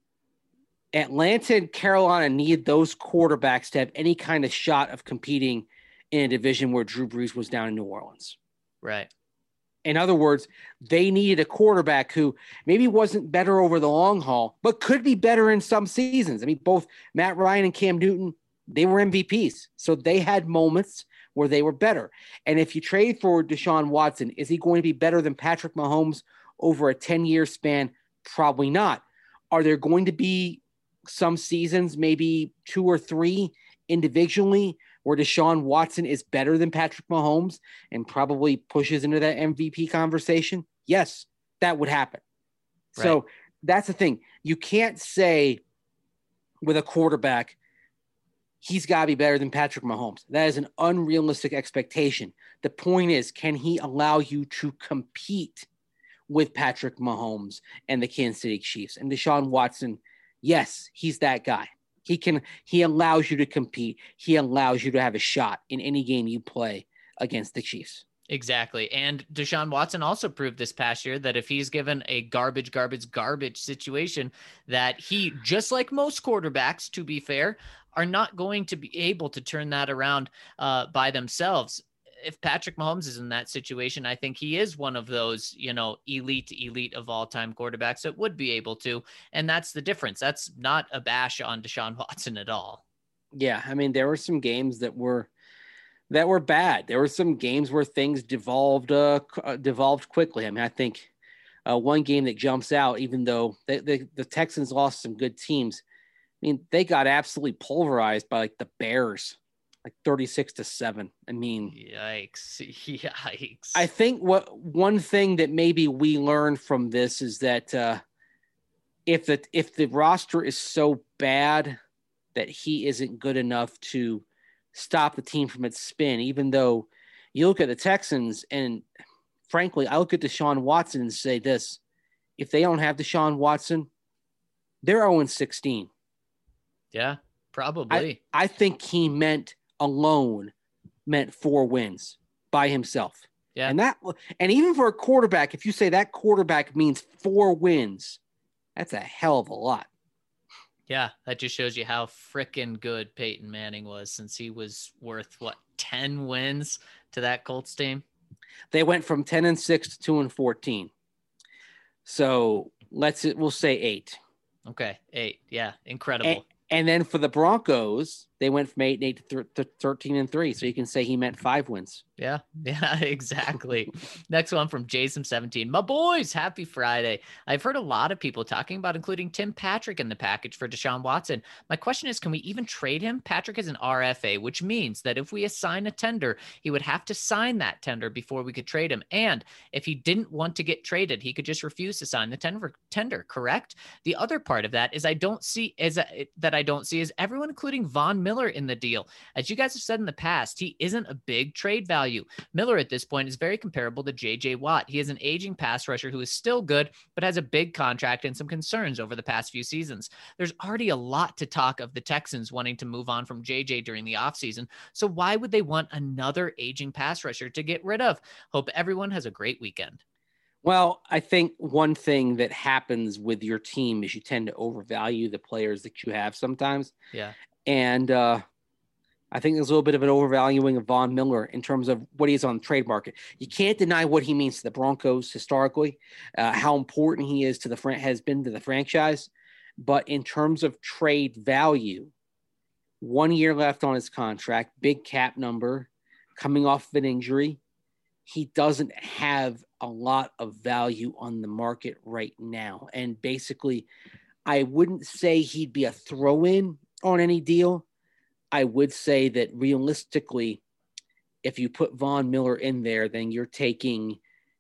Atlanta and Carolina need those quarterbacks to have any kind of shot of competing in a division where Drew Brees was down in New Orleans. Right. In other words, they needed a quarterback who maybe wasn't better over the long haul, but could be better in some seasons. I mean, both Matt Ryan and Cam Newton, they were MVPs. So they had moments where they were better. And if you trade for Deshaun Watson, is he going to be better than Patrick Mahomes over a 10-year span? Probably not. Are there going to be some seasons, maybe 2 or 3 individually, where Deshaun Watson is better than Patrick Mahomes and probably pushes into that MVP conversation? Yes, that would happen. Right. So that's the thing. You can't say with a quarterback, he's got to be better than Patrick Mahomes. That is an unrealistic expectation. The point is, can he allow you to compete with Patrick Mahomes and the Kansas City Chiefs? And Deshaun Watson, yes, he's that guy. He allows you to compete. He allows you to have a shot in any game you play against the Chiefs. Exactly. And Deshaun Watson also proved this past year that if he's given a garbage situation, that he, just like most quarterbacks, to be fair, are not going to be able to turn that around by themselves. If Patrick Mahomes is in that situation, I think he is one of those, elite of all time quarterbacks that would be able to. And that's the difference. That's not a bash on Deshaun Watson at all. Yeah. I mean, there were some games that were bad. There were some games where things devolved quickly. I mean, I think one game that jumps out, even though the Texans lost some good teams, I mean, they got absolutely pulverized by like the Bears, like 36-7. I mean, Yikes. I think one thing that maybe we learned from this is that if the roster is so bad that he isn't good enough to stop the team from its spin, even though you look at the Texans, and frankly, I look at Deshaun Watson and say this: if they don't have Deshaun Watson, they're 0-16. Yeah, probably. I think he meant 4 wins by himself. Yeah. And even for a quarterback, if you say that quarterback means 4 wins, that's a hell of a lot. Yeah, that just shows you how freaking good Peyton Manning was, since he was worth 10 wins to that Colts team. They went from 10-6 to 2-14. So we'll say 8. Okay, 8. Yeah, incredible. And then for the Broncos, they went from 8-8 to 13-3. So you can say he meant 5 wins. Yeah, exactly. Next one from Jason17. My boys, happy Friday. I've heard a lot of people talking about including Tim Patrick in the package for Deshaun Watson. My question is, can we even trade him? Patrick is an RFA, which means that if we assign a tender, he would have to sign that tender before we could trade him. And if he didn't want to get traded, he could just refuse to sign the tender, correct? The other part of that is I don't see is everyone including Von Miller in the deal. As you guys have said in the past, he isn't a big trade value. Miller at this point is very comparable to J.J. Watt. He is an aging pass rusher who is still good, but has a big contract and some concerns over the past few seasons. There's already a lot to talk of the Texans wanting to move on from J.J. during the offseason, so why would they want another aging pass rusher to get rid of? Hope everyone has a great weekend. Well, I think one thing that happens with your team is you tend to overvalue the players that you have sometimes. Yeah. And I think there's a little bit of an overvaluing of Von Miller in terms of what he's on the trade market. You can't deny what he means to the Broncos historically, how important he is has been to the franchise. But in terms of trade value, 1 year left on his contract, big cap number, coming off of an injury, he doesn't have a lot of value on the market right now. And basically, I wouldn't say he'd be a throw-in on any deal. I would say that realistically, if you put Von Miller in there, then you're taking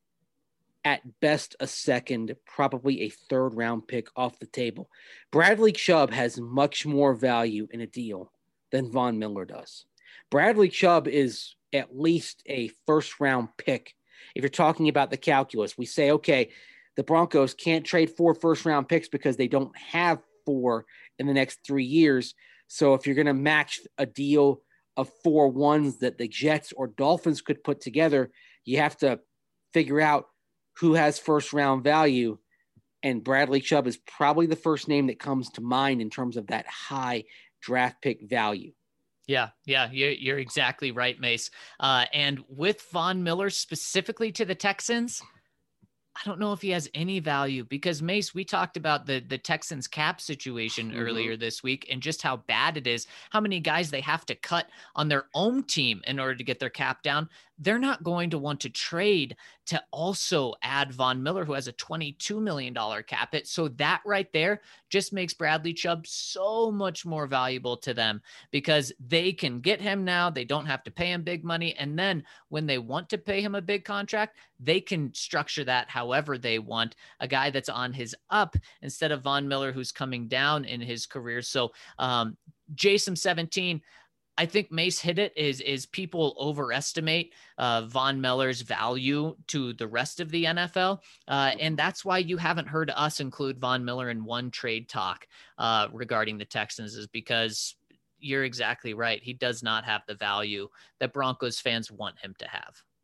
at best a second, probably a 3rd round pick off the table. Bradley Chubb has much more value in a deal than Von Miller does. Bradley Chubb is at least a 1st round pick. If you're talking about the calculus, we say, okay, the Broncos can't trade 4 1st round picks because they don't have 4 in the next 3 years. So if you're going to match a deal of 4 ones that the Jets or Dolphins could put together, you have to figure out who has 1st round value. And Bradley Chubb is probably the first name that comes to mind in terms of that high draft pick value. Yeah, you're exactly right, Mace. And with Von Miller specifically to the Texans, I don't know if he has any value because, Mace, we talked about the Texans cap situation earlier this week and just how bad it is, how many guys they have to cut on their own team in order to get their cap down. They're not going to want to trade to also add Von Miller, who has a $22 million cap hit. So that right there just makes Bradley Chubb so much more valuable to them because they can get him now. They don't have to pay him big money. And then when they want to pay him a big contract, they can structure that however they want. A guy that's on his up instead of Von Miller, who's coming down in his career. So Jason 17, I think Mace hit it is people overestimate Von Miller's value to the rest of the NFL. And that's why you haven't heard us include Von Miller in one trade talk regarding the Texans, is because you're exactly right. He does not have the value that Broncos fans want him to have.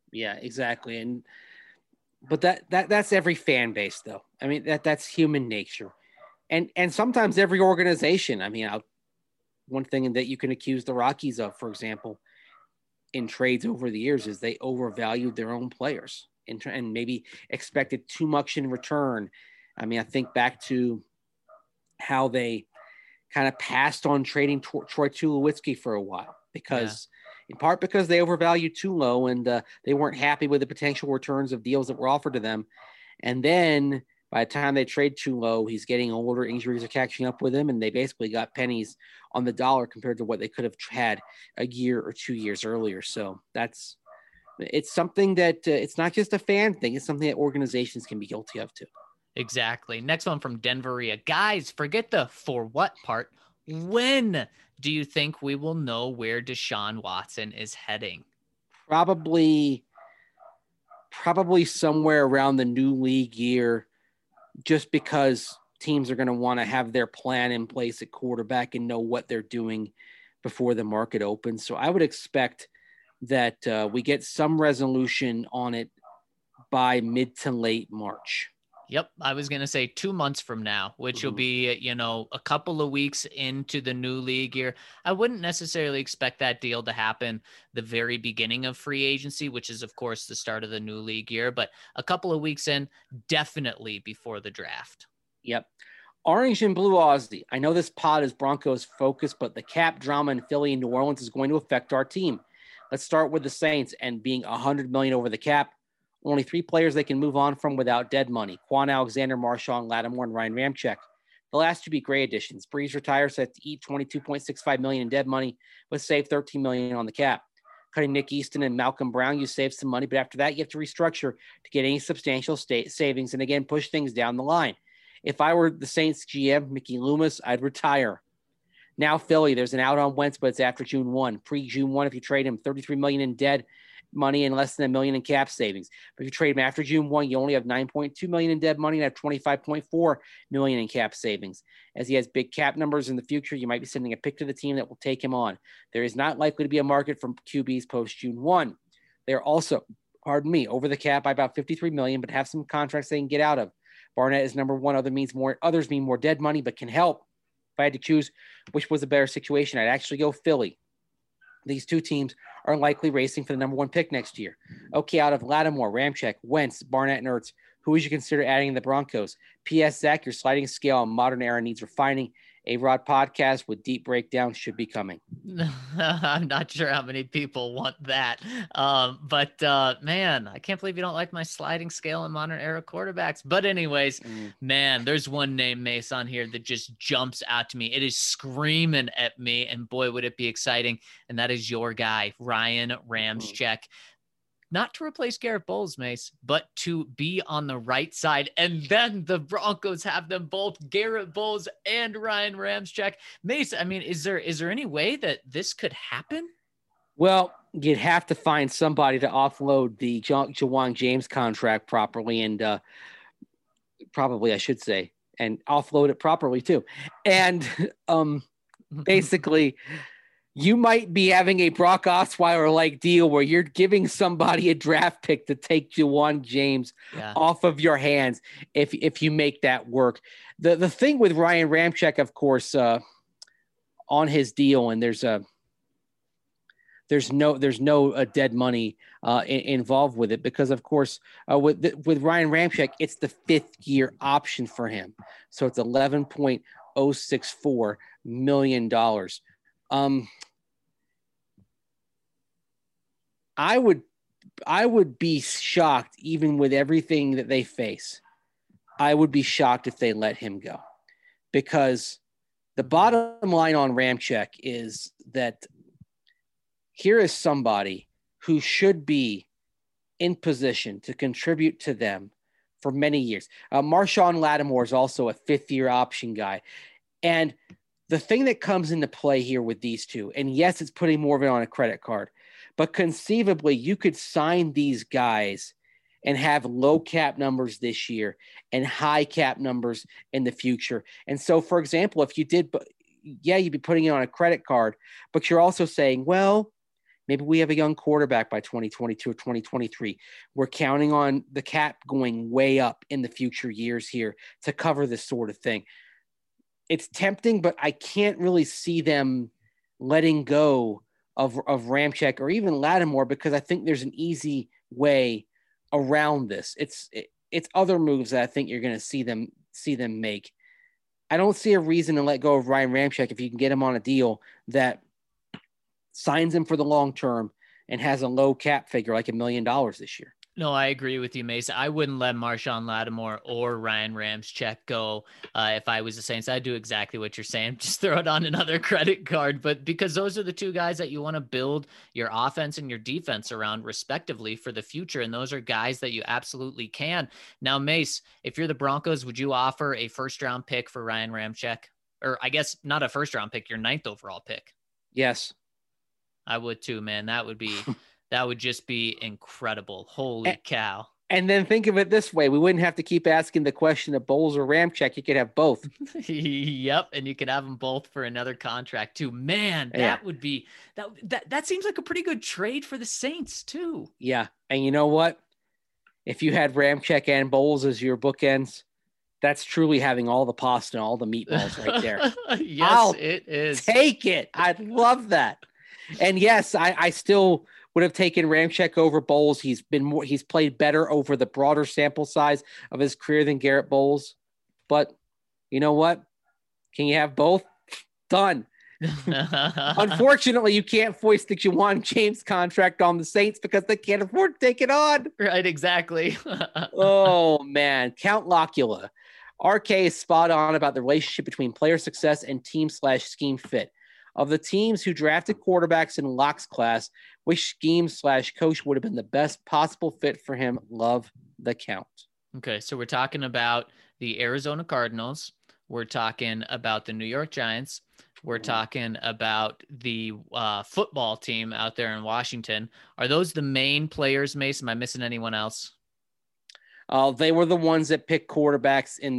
Yeah, exactly. But that's every fan base, though. I mean, that's human nature, and sometimes every organization. I mean, one thing that you can accuse the Rockies of, for example, in trades over the years, is they overvalued their own players and maybe expected too much in return. I mean, I think back to how they kind of passed on trading Troy Tulowitzki for a while in part because they overvalued too low and they weren't happy with the potential returns of deals that were offered to them. And then by the time they trade too low, he's getting older, injuries are catching up with him, and they basically got pennies on the dollar compared to what they could have had a year or 2 years earlier. So it's something that it's not just a fan thing. It's something that organizations can be guilty of too. Exactly. Next one from Denveria. Guys, forget the for what part. When do you think we will know where Deshaun Watson is heading? Probably somewhere around the new league year, just because teams are going to want to have their plan in place at quarterback and know what they're doing before the market opens. So I would expect that we get some resolution on it by mid to late March. Yep. I was going to say 2 months from now, which will be, a couple of weeks into the new league year. I wouldn't necessarily expect that deal to happen the very beginning of free agency, which is, of course, the start of the new league year, but a couple of weeks in, definitely before the draft. Yep. Orange and Blue Aussie. I know this pod is Broncos focused, but the cap drama in Philly and New Orleans is going to affect our team. Let's start with the Saints and being $100 million over the cap. Only 3 players they can move on from without dead money: Quan Alexander, Marshawn Lattimore, and Ryan Ramczyk. The last 2 be great additions. Breeze retires, set to eat $22.65 million in dead money, but save $13 million on the cap. Cutting Nick Easton and Malcolm Brown, you save some money, but after that, you have to restructure to get any substantial savings and again push things down the line. If I were the Saints GM, Mickey Loomis, I'd retire. Now Philly, there's an out on Wentz, but it's after June 1. Pre-June 1, if you trade him, $33 million in dead money and less than $1 million in cap savings. But if you trade him after June 1, you only have $9.2 million in dead money and have $25.4 million in cap savings. As he has big cap numbers in the future, you might be sending a pick to the team that will take him on. There is not likely to be a market for QBs post June 1. They're also, over the cap by about $53 million, but have some contracts they can get out of. Barnett is number one. Others mean more dead money, but can help. If I had to choose which was a better situation, I'd actually go Philly. These 2 teams are likely racing for the number 1 pick next year. Okay, out of Lattimore, Ramczyk, Wentz, Barnett, and Ertz, who would you consider adding in the Broncos? P.S. Zach, your sliding scale on modern era needs refining. A Rod podcast with deep breakdowns should be coming. I'm not sure how many people want that. But man, I can't believe you don't like my sliding scale in modern era quarterbacks. But anyways, man, there's one name, Mace, on here that just jumps out to me. It is screaming at me, and boy, would it be exciting. And that is your guy, Ryan Ramczyk. Not to replace Garrett Bowles, Mace, but to be on the right side. And then the Broncos have them both, Garrett Bowles and Ryan Ramczyk. Mace, I mean, is there any way that this could happen? Well, you'd have to find somebody to offload the Ja'Wuan James contract properly and probably, I should say, and offload it properly too. And basically, you might be having a Brock Osweiler-like deal where you're giving somebody a draft pick to take Ja'Wuan James off of your hands if you make that work. The thing with Ryan Ramczyk, of course, on his deal, and there's no dead money involved with it because, of course, with Ryan Ramczyk, it's the 5th year option for him, so it's $11.064 million. I would be shocked, even with everything that they face. I would be shocked if they let him go, because the bottom line on Ramczyk is that here is somebody who should be in position to contribute to them for many years. Marshawn Lattimore is also a 5th year option guy. And the thing that comes into play here with these 2, and yes, it's putting more of it on a credit card, but conceivably you could sign these guys and have low cap numbers this year and high cap numbers in the future. And so, for example, if you did, you'd be putting it on a credit card, but you're also saying, well, Maybe we have a young quarterback by 2022 or 2023. We're counting on the cap going way up in the future years here to cover this sort of thing. It's tempting, but I can't really see them letting go of Ramczyk or even Lattimore, because I think there's an easy way around this. It's other moves that I think you're going to see them make. I don't see a reason to let go of Ryan Ramczyk if you can get him on a deal that signs him for the long term and has a low cap figure like $1 million this year. No, I agree with you, Mason. I wouldn't let Marshawn Lattimore or Ryan Ramczyk go if I was the Saints. I'd do exactly what you're saying. Just throw it on another credit card. But because those are the two guys that you want to build your offense and your defense around respectively for the future. And those are guys that you absolutely can. Now, Mace, if you're the Broncos, would you offer a first-round pick for Ryan Ramczyk? Or I guess not a first-round pick, your 9th overall pick. Yes. I would too, man. That would just be incredible. Holy cow. And then think of it this way. We wouldn't have to keep asking the question of Bowles or Ramczyk. You could have both. Yep. And you could have them both for another contract too. Man, that would be that seems like a pretty good trade for the Saints too. Yeah. And you know what? If you had Ramczyk and Bowles as your bookends, that's truly having all the pasta and all the meatballs right there. Yes, it is. Take it. I'd love that. And yes, I still would have taken Ramczyk over Bowles. He's played better over the broader sample size of his career than Garrett Bowles. But you know what? Can you have both? Done. Unfortunately, you can't foist the Juwan James contract on the Saints because they can't afford to take it on. Right, exactly. Oh, man. Count Locula. RK is spot on about the relationship between player success and team/scheme fit. Of the teams who drafted quarterbacks in Locke's class, which scheme/coach would have been the best possible fit for him? Love the count. Okay, so we're talking about the Arizona Cardinals. We're talking about the New York Giants. We're talking about the football team out there in Washington. Are those the main players, Mason? Am I missing anyone else? They were the ones that picked quarterbacks in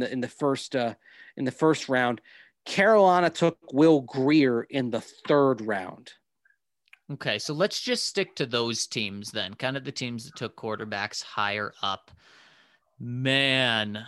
the first round. Carolina took Will Grier in the 3rd round. Okay, so let's just stick to those teams then, kind of the teams that took quarterbacks higher up. Man,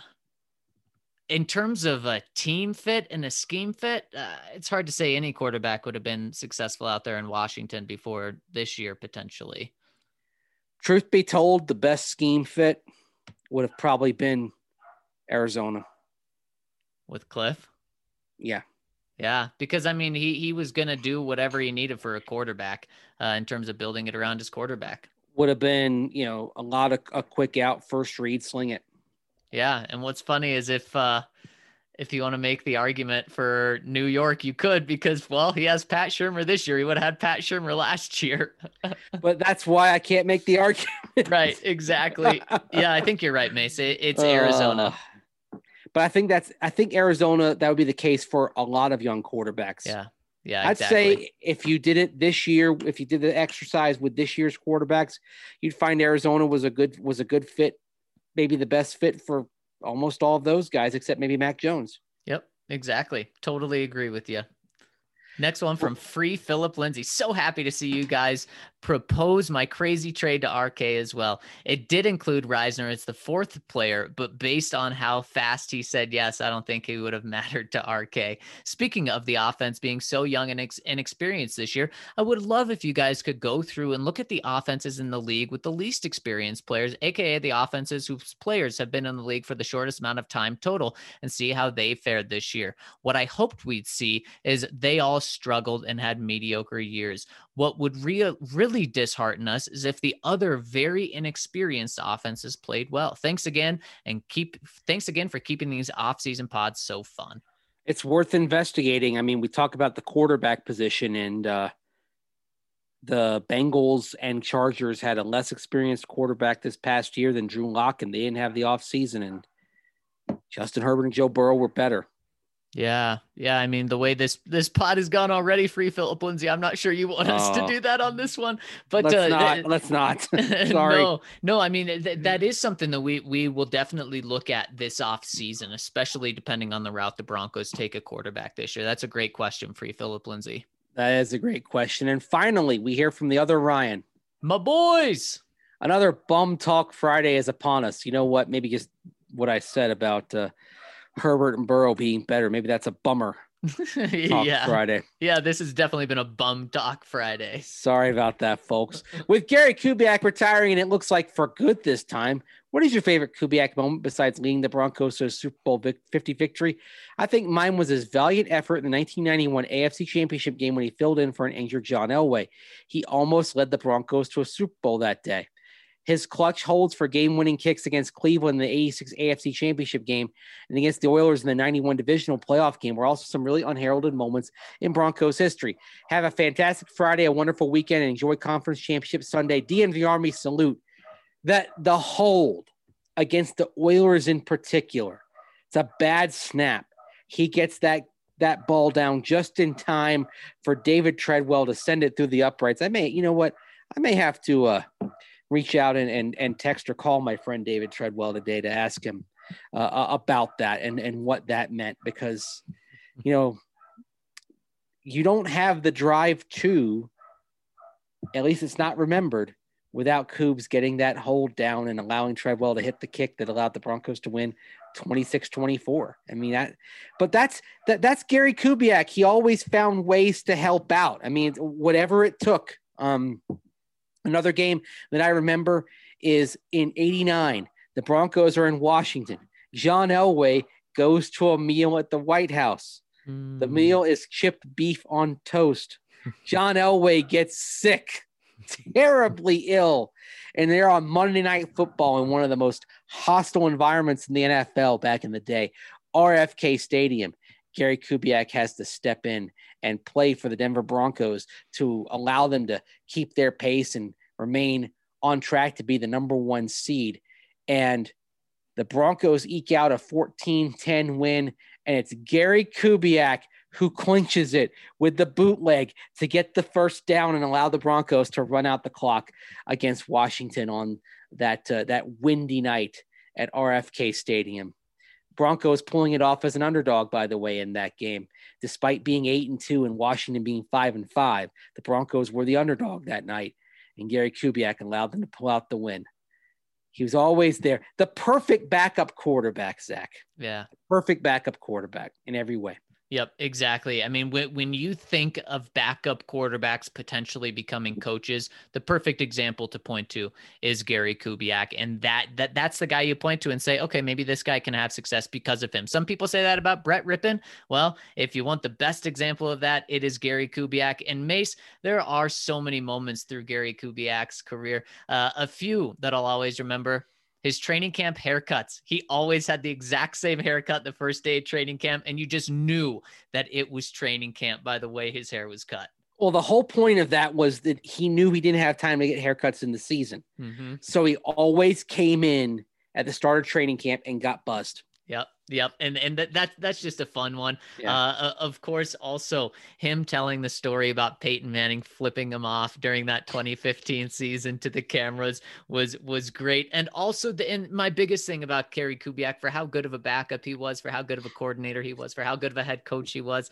in terms of a team fit and a scheme fit, it's hard to say any quarterback would have been successful out there in Washington before this year, potentially. Truth be told, the best scheme fit would have probably been Arizona. With Cliff? Yeah. Yeah, because, I mean, he was going to do whatever he needed for a quarterback in terms of building it around his quarterback. Would have been, a lot of a quick out, first read, sling it. Yeah, and what's funny is if you want to make the argument for New York, you could, because, well, he has Pat Shurmur this year. He would have had Pat Shurmur last year. But that's why I can't make the argument. Right, exactly. Yeah, I think you're right, Mace. It's Arizona. But I think Arizona, that would be the case for a lot of young quarterbacks. Yeah, I'd say if you did it this year, if you did the exercise with this year's quarterbacks, you'd find Arizona was a good fit, maybe the best fit for almost all of those guys, except maybe Mac Jones. Yep, exactly. Totally agree with you. Next one from Free Philip Lindsay. So happy to see you guys propose my crazy trade to RK as well. It did include Reisner as the 4th player, but based on how fast he said yes, I don't think he would have mattered to RK. Speaking of the offense being so young and inexperienced this year, I would love if you guys could go through and look at the offenses in the league with the least experienced players, aka the offenses whose players have been in the league for the shortest amount of time total, and see how they fared this year. What I hoped we'd see is they all struggled and had mediocre years. What would really dishearten us is if the other very inexperienced offenses played well. Thanks again for keeping these off-season pods so fun. It's worth investigating. I mean, we talk about the quarterback position, and the Bengals and Chargers had a less experienced quarterback this past year than Drew Lock, and they didn't have the offseason, and Justin Herbert and Joe Burrow were better. Yeah. I mean, the way this pod has gone already, Free Philip Lindsay, I'm not sure you want us to do that on this one, but let's not. Sorry. No. I mean, that is something that we will definitely look at this off season, especially depending on the route the Broncos take a quarterback this year. That's a great question, Free Philip Lindsay. That is a great question. And finally, we hear from the other Ryan. My boys. Another bum talk Friday is upon us. You know what? Maybe just what I said about Herbert and Burrow being better. Maybe that's a bummer talk Friday. Yeah, this has definitely been a bum talk Friday. Sorry about that, folks. With Gary Kubiak retiring, and it looks like for good this time, what is your favorite Kubiak moment besides leading the Broncos to a Super Bowl 50 victory? I think mine was his valiant effort in the 1991 AFC Championship game when he filled in for an injured John Elway. He almost led the Broncos to a Super Bowl that day. His clutch holds for game-winning kicks against Cleveland in the 86 AFC Championship game and against the Oilers in the 91 divisional playoff game were also some really unheralded moments in Broncos history. Have a fantastic Friday, a wonderful weekend, and enjoy Conference Championship Sunday. DNV Army salute. That the hold against the Oilers in particular, it's a bad snap. He gets that ball down just in time for David Treadwell to send it through the uprights. I may have to reach out and text or call my friend David Treadwell today to ask him about that and what that meant, because, you don't have the drive to, at least it's not remembered, without Coobs getting that hold down and allowing Treadwell to hit the kick that allowed the Broncos to win 26-24. I mean, that's Gary Kubiak. He always found ways to help out. I mean, whatever it took. Another game that I remember is in '89. The Broncos are in Washington. John Elway goes to a meal at the White House. The meal is chipped beef on toast. John Elway gets sick, terribly ill, and they're on Monday Night Football in one of the most hostile environments in the NFL back in the day, RFK Stadium. Gary Kubiak has to step in and play for the Denver Broncos to allow them to keep their pace and remain on track to be the number one seed. And the Broncos eke out a 14-10 win, and it's Gary Kubiak who clinches it with the bootleg to get the first down and allow the Broncos to run out the clock against Washington on that windy night at RFK Stadium. Broncos pulling it off as an underdog, by the way, in that game. Despite being 8-2 and Washington being 5-5, the Broncos were the underdog that night, and Gary Kubiak allowed them to pull out the win. He was always there. The perfect backup quarterback, Zach. Yeah. Perfect backup quarterback in every way. Yep, exactly. I mean, when you think of backup quarterbacks potentially becoming coaches, the perfect example to point to is Gary Kubiak. And that's the guy you point to and say, okay, maybe this guy can have success because of him. Some people say that about Brett Rippon. Well, if you want the best example of that, it is Gary Kubiak. And Mace, there are so many moments through Gary Kubiak's career. A few that I'll always remember. His training camp haircuts. He always had the exact same haircut the first day of training camp, and you just knew that it was training camp by the way his hair was cut. Well, the whole point of that was that he knew he didn't have time to get haircuts in the season. Mm-hmm. So he always came in at the start of training camp and got buzzed. Yep. And that's just a fun one. Yeah. Of course, also him telling the story about Peyton Manning flipping him off during that 2015 season to the cameras was great. And also and my biggest thing about Gary Kubiak, for how good of a backup he was, for how good of a coordinator he was, for how good of a head coach he was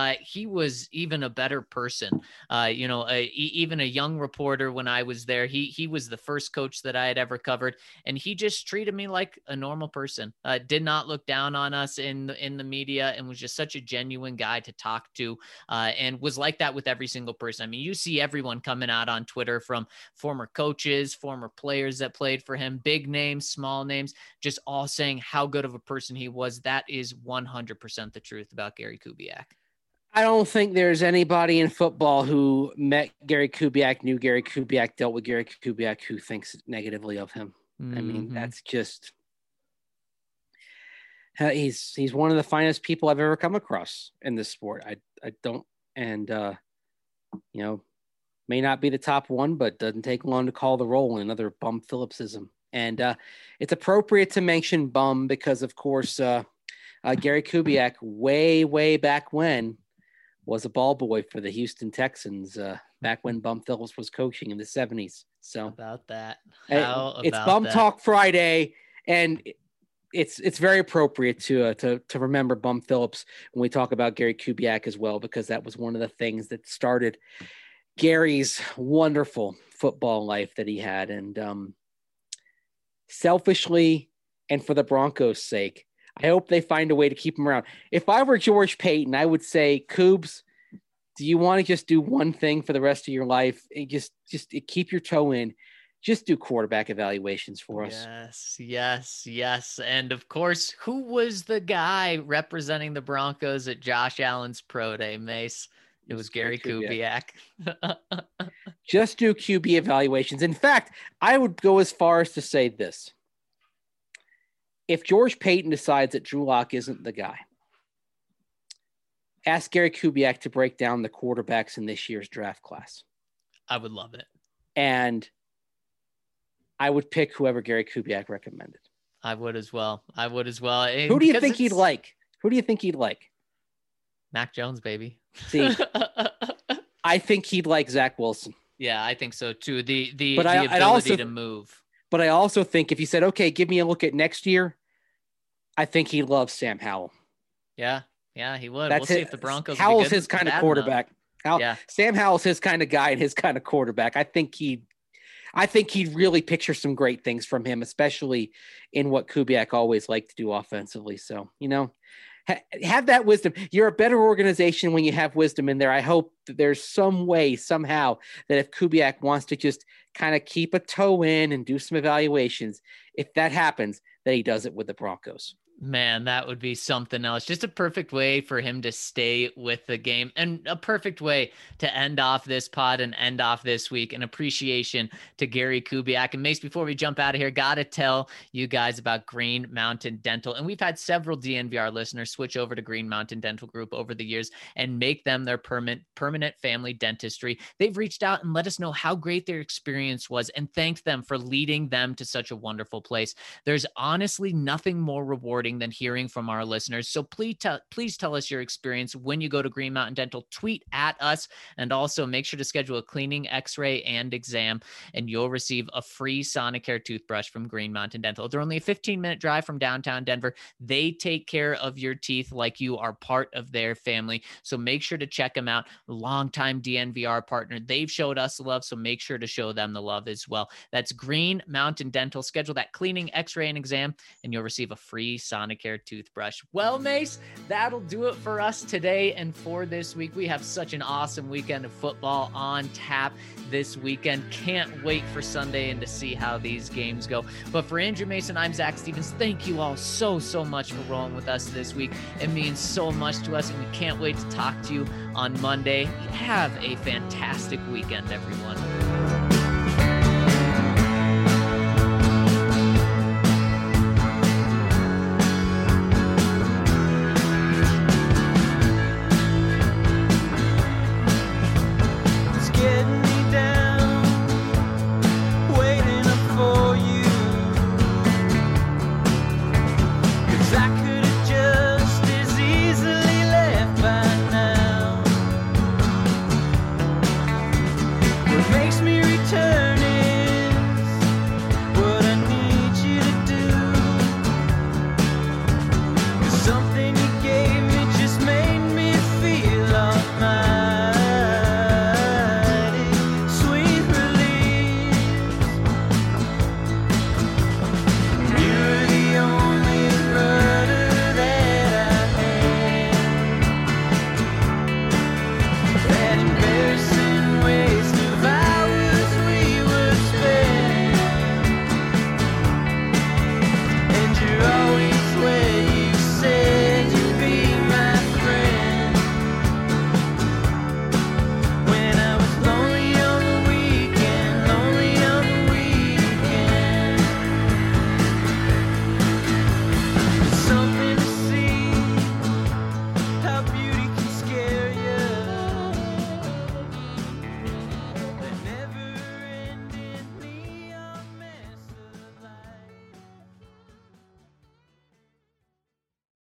even a better person. Even a young reporter when I was there, he was the first coach that I had ever covered, and he just treated me like a normal person. Did not look down on us in the media, and was just such a genuine guy to talk to, and was like that with every single person. I mean, you see everyone coming out on Twitter, from former coaches, former players that played for him, big names, small names, just all saying how good of a person he was. That is 100% the truth about Gary Kubiak. I don't think there's anybody in football who met Gary Kubiak, knew Gary Kubiak, dealt with Gary Kubiak, who thinks negatively of him. Mm-hmm. I mean, that's just... He's one of the finest people I've ever come across in this sport. I don't, and may not be the top one, but doesn't take long to call the roll in another bum Phillipsism. And it's appropriate to mention bum because, of course, Gary Kubiak, way back when, was a ball boy for the Houston Texans back when Bum Phillips was coaching in the 70s. So about that, it's Bum Talk Friday, and it's very appropriate to remember Bum Phillips when we talk about Gary Kubiak as well, because that was one of the things that started Gary's wonderful football life that he had. And selfishly, and for the Broncos' sake, I hope they find a way to keep him around. If I were George Payton, I would say, Coobs, do you want to just do one thing for the rest of your life? And just keep your toe in. Just do quarterback evaluations for us. Yes. And of course, who was the guy representing the Broncos at Josh Allen's pro day, Mace? It was Gary Kubiak. Just do QB evaluations. In fact, I would go as far as to say this. If George Payton decides that Drew Lock isn't the guy, ask Gary Kubiak to break down the quarterbacks in this year's draft class. I would love it. And I would pick whoever Gary Kubiak recommended. I would as well. Who do you think he'd like? Mac Jones, baby. See, I think he'd like Zach Wilson. Yeah, I think so too. The ability to move. But I also think if you said, okay, give me a look at next year, I think he loves Sam Howell. Yeah, he would. We'll see if the Broncos. Howell's his kind of quarterback. Sam Howell's his kind of guy and his kind of quarterback. I think he'd really picture some great things from him, especially in what Kubiak always liked to do offensively. So, have that wisdom. You're a better organization when you have wisdom in there. I hope that there's some way, somehow, that if Kubiak wants to just kind of keep a toe in and do some evaluations, if that happens, that he does it with the Broncos. Man, that would be something else. Just a perfect way for him to stay with the game, and a perfect way to end off this pod and end off this week. An appreciation to Gary Kubiak. And Mace, before we jump out of here, got to tell you guys about Green Mountain Dental. And we've had several DNVR listeners switch over to Green Mountain Dental Group over the years and make them their permanent family dentistry. They've reached out and let us know how great their experience was and thanked them for leading them to such a wonderful place. There's honestly nothing more rewarding than hearing from our listeners. So please tell us your experience when you go to Green Mountain Dental. Tweet at us, and also make sure to schedule a cleaning, x-ray, and exam, and you'll receive a free Sonicare toothbrush from Green Mountain Dental. They're only a 15-minute drive from downtown Denver. They take care of your teeth like you are part of their family. So make sure to check them out. Longtime DNVR partner. They've showed us the love, so make sure to show them the love as well. That's Green Mountain Dental. Schedule that cleaning, x-ray, and exam, and you'll receive a free Sonicare toothbrush. Well, Mace, that'll do it for us today and for this week. We have such an awesome weekend of football on tap this weekend. Can't wait for Sunday and to see how these games go. But for Andrew Mason, I'm Zach Stevens. Thank you all so much for rolling with us this week. It means so much to us, and we can't wait to talk to you on Monday. Have a fantastic weekend, everyone.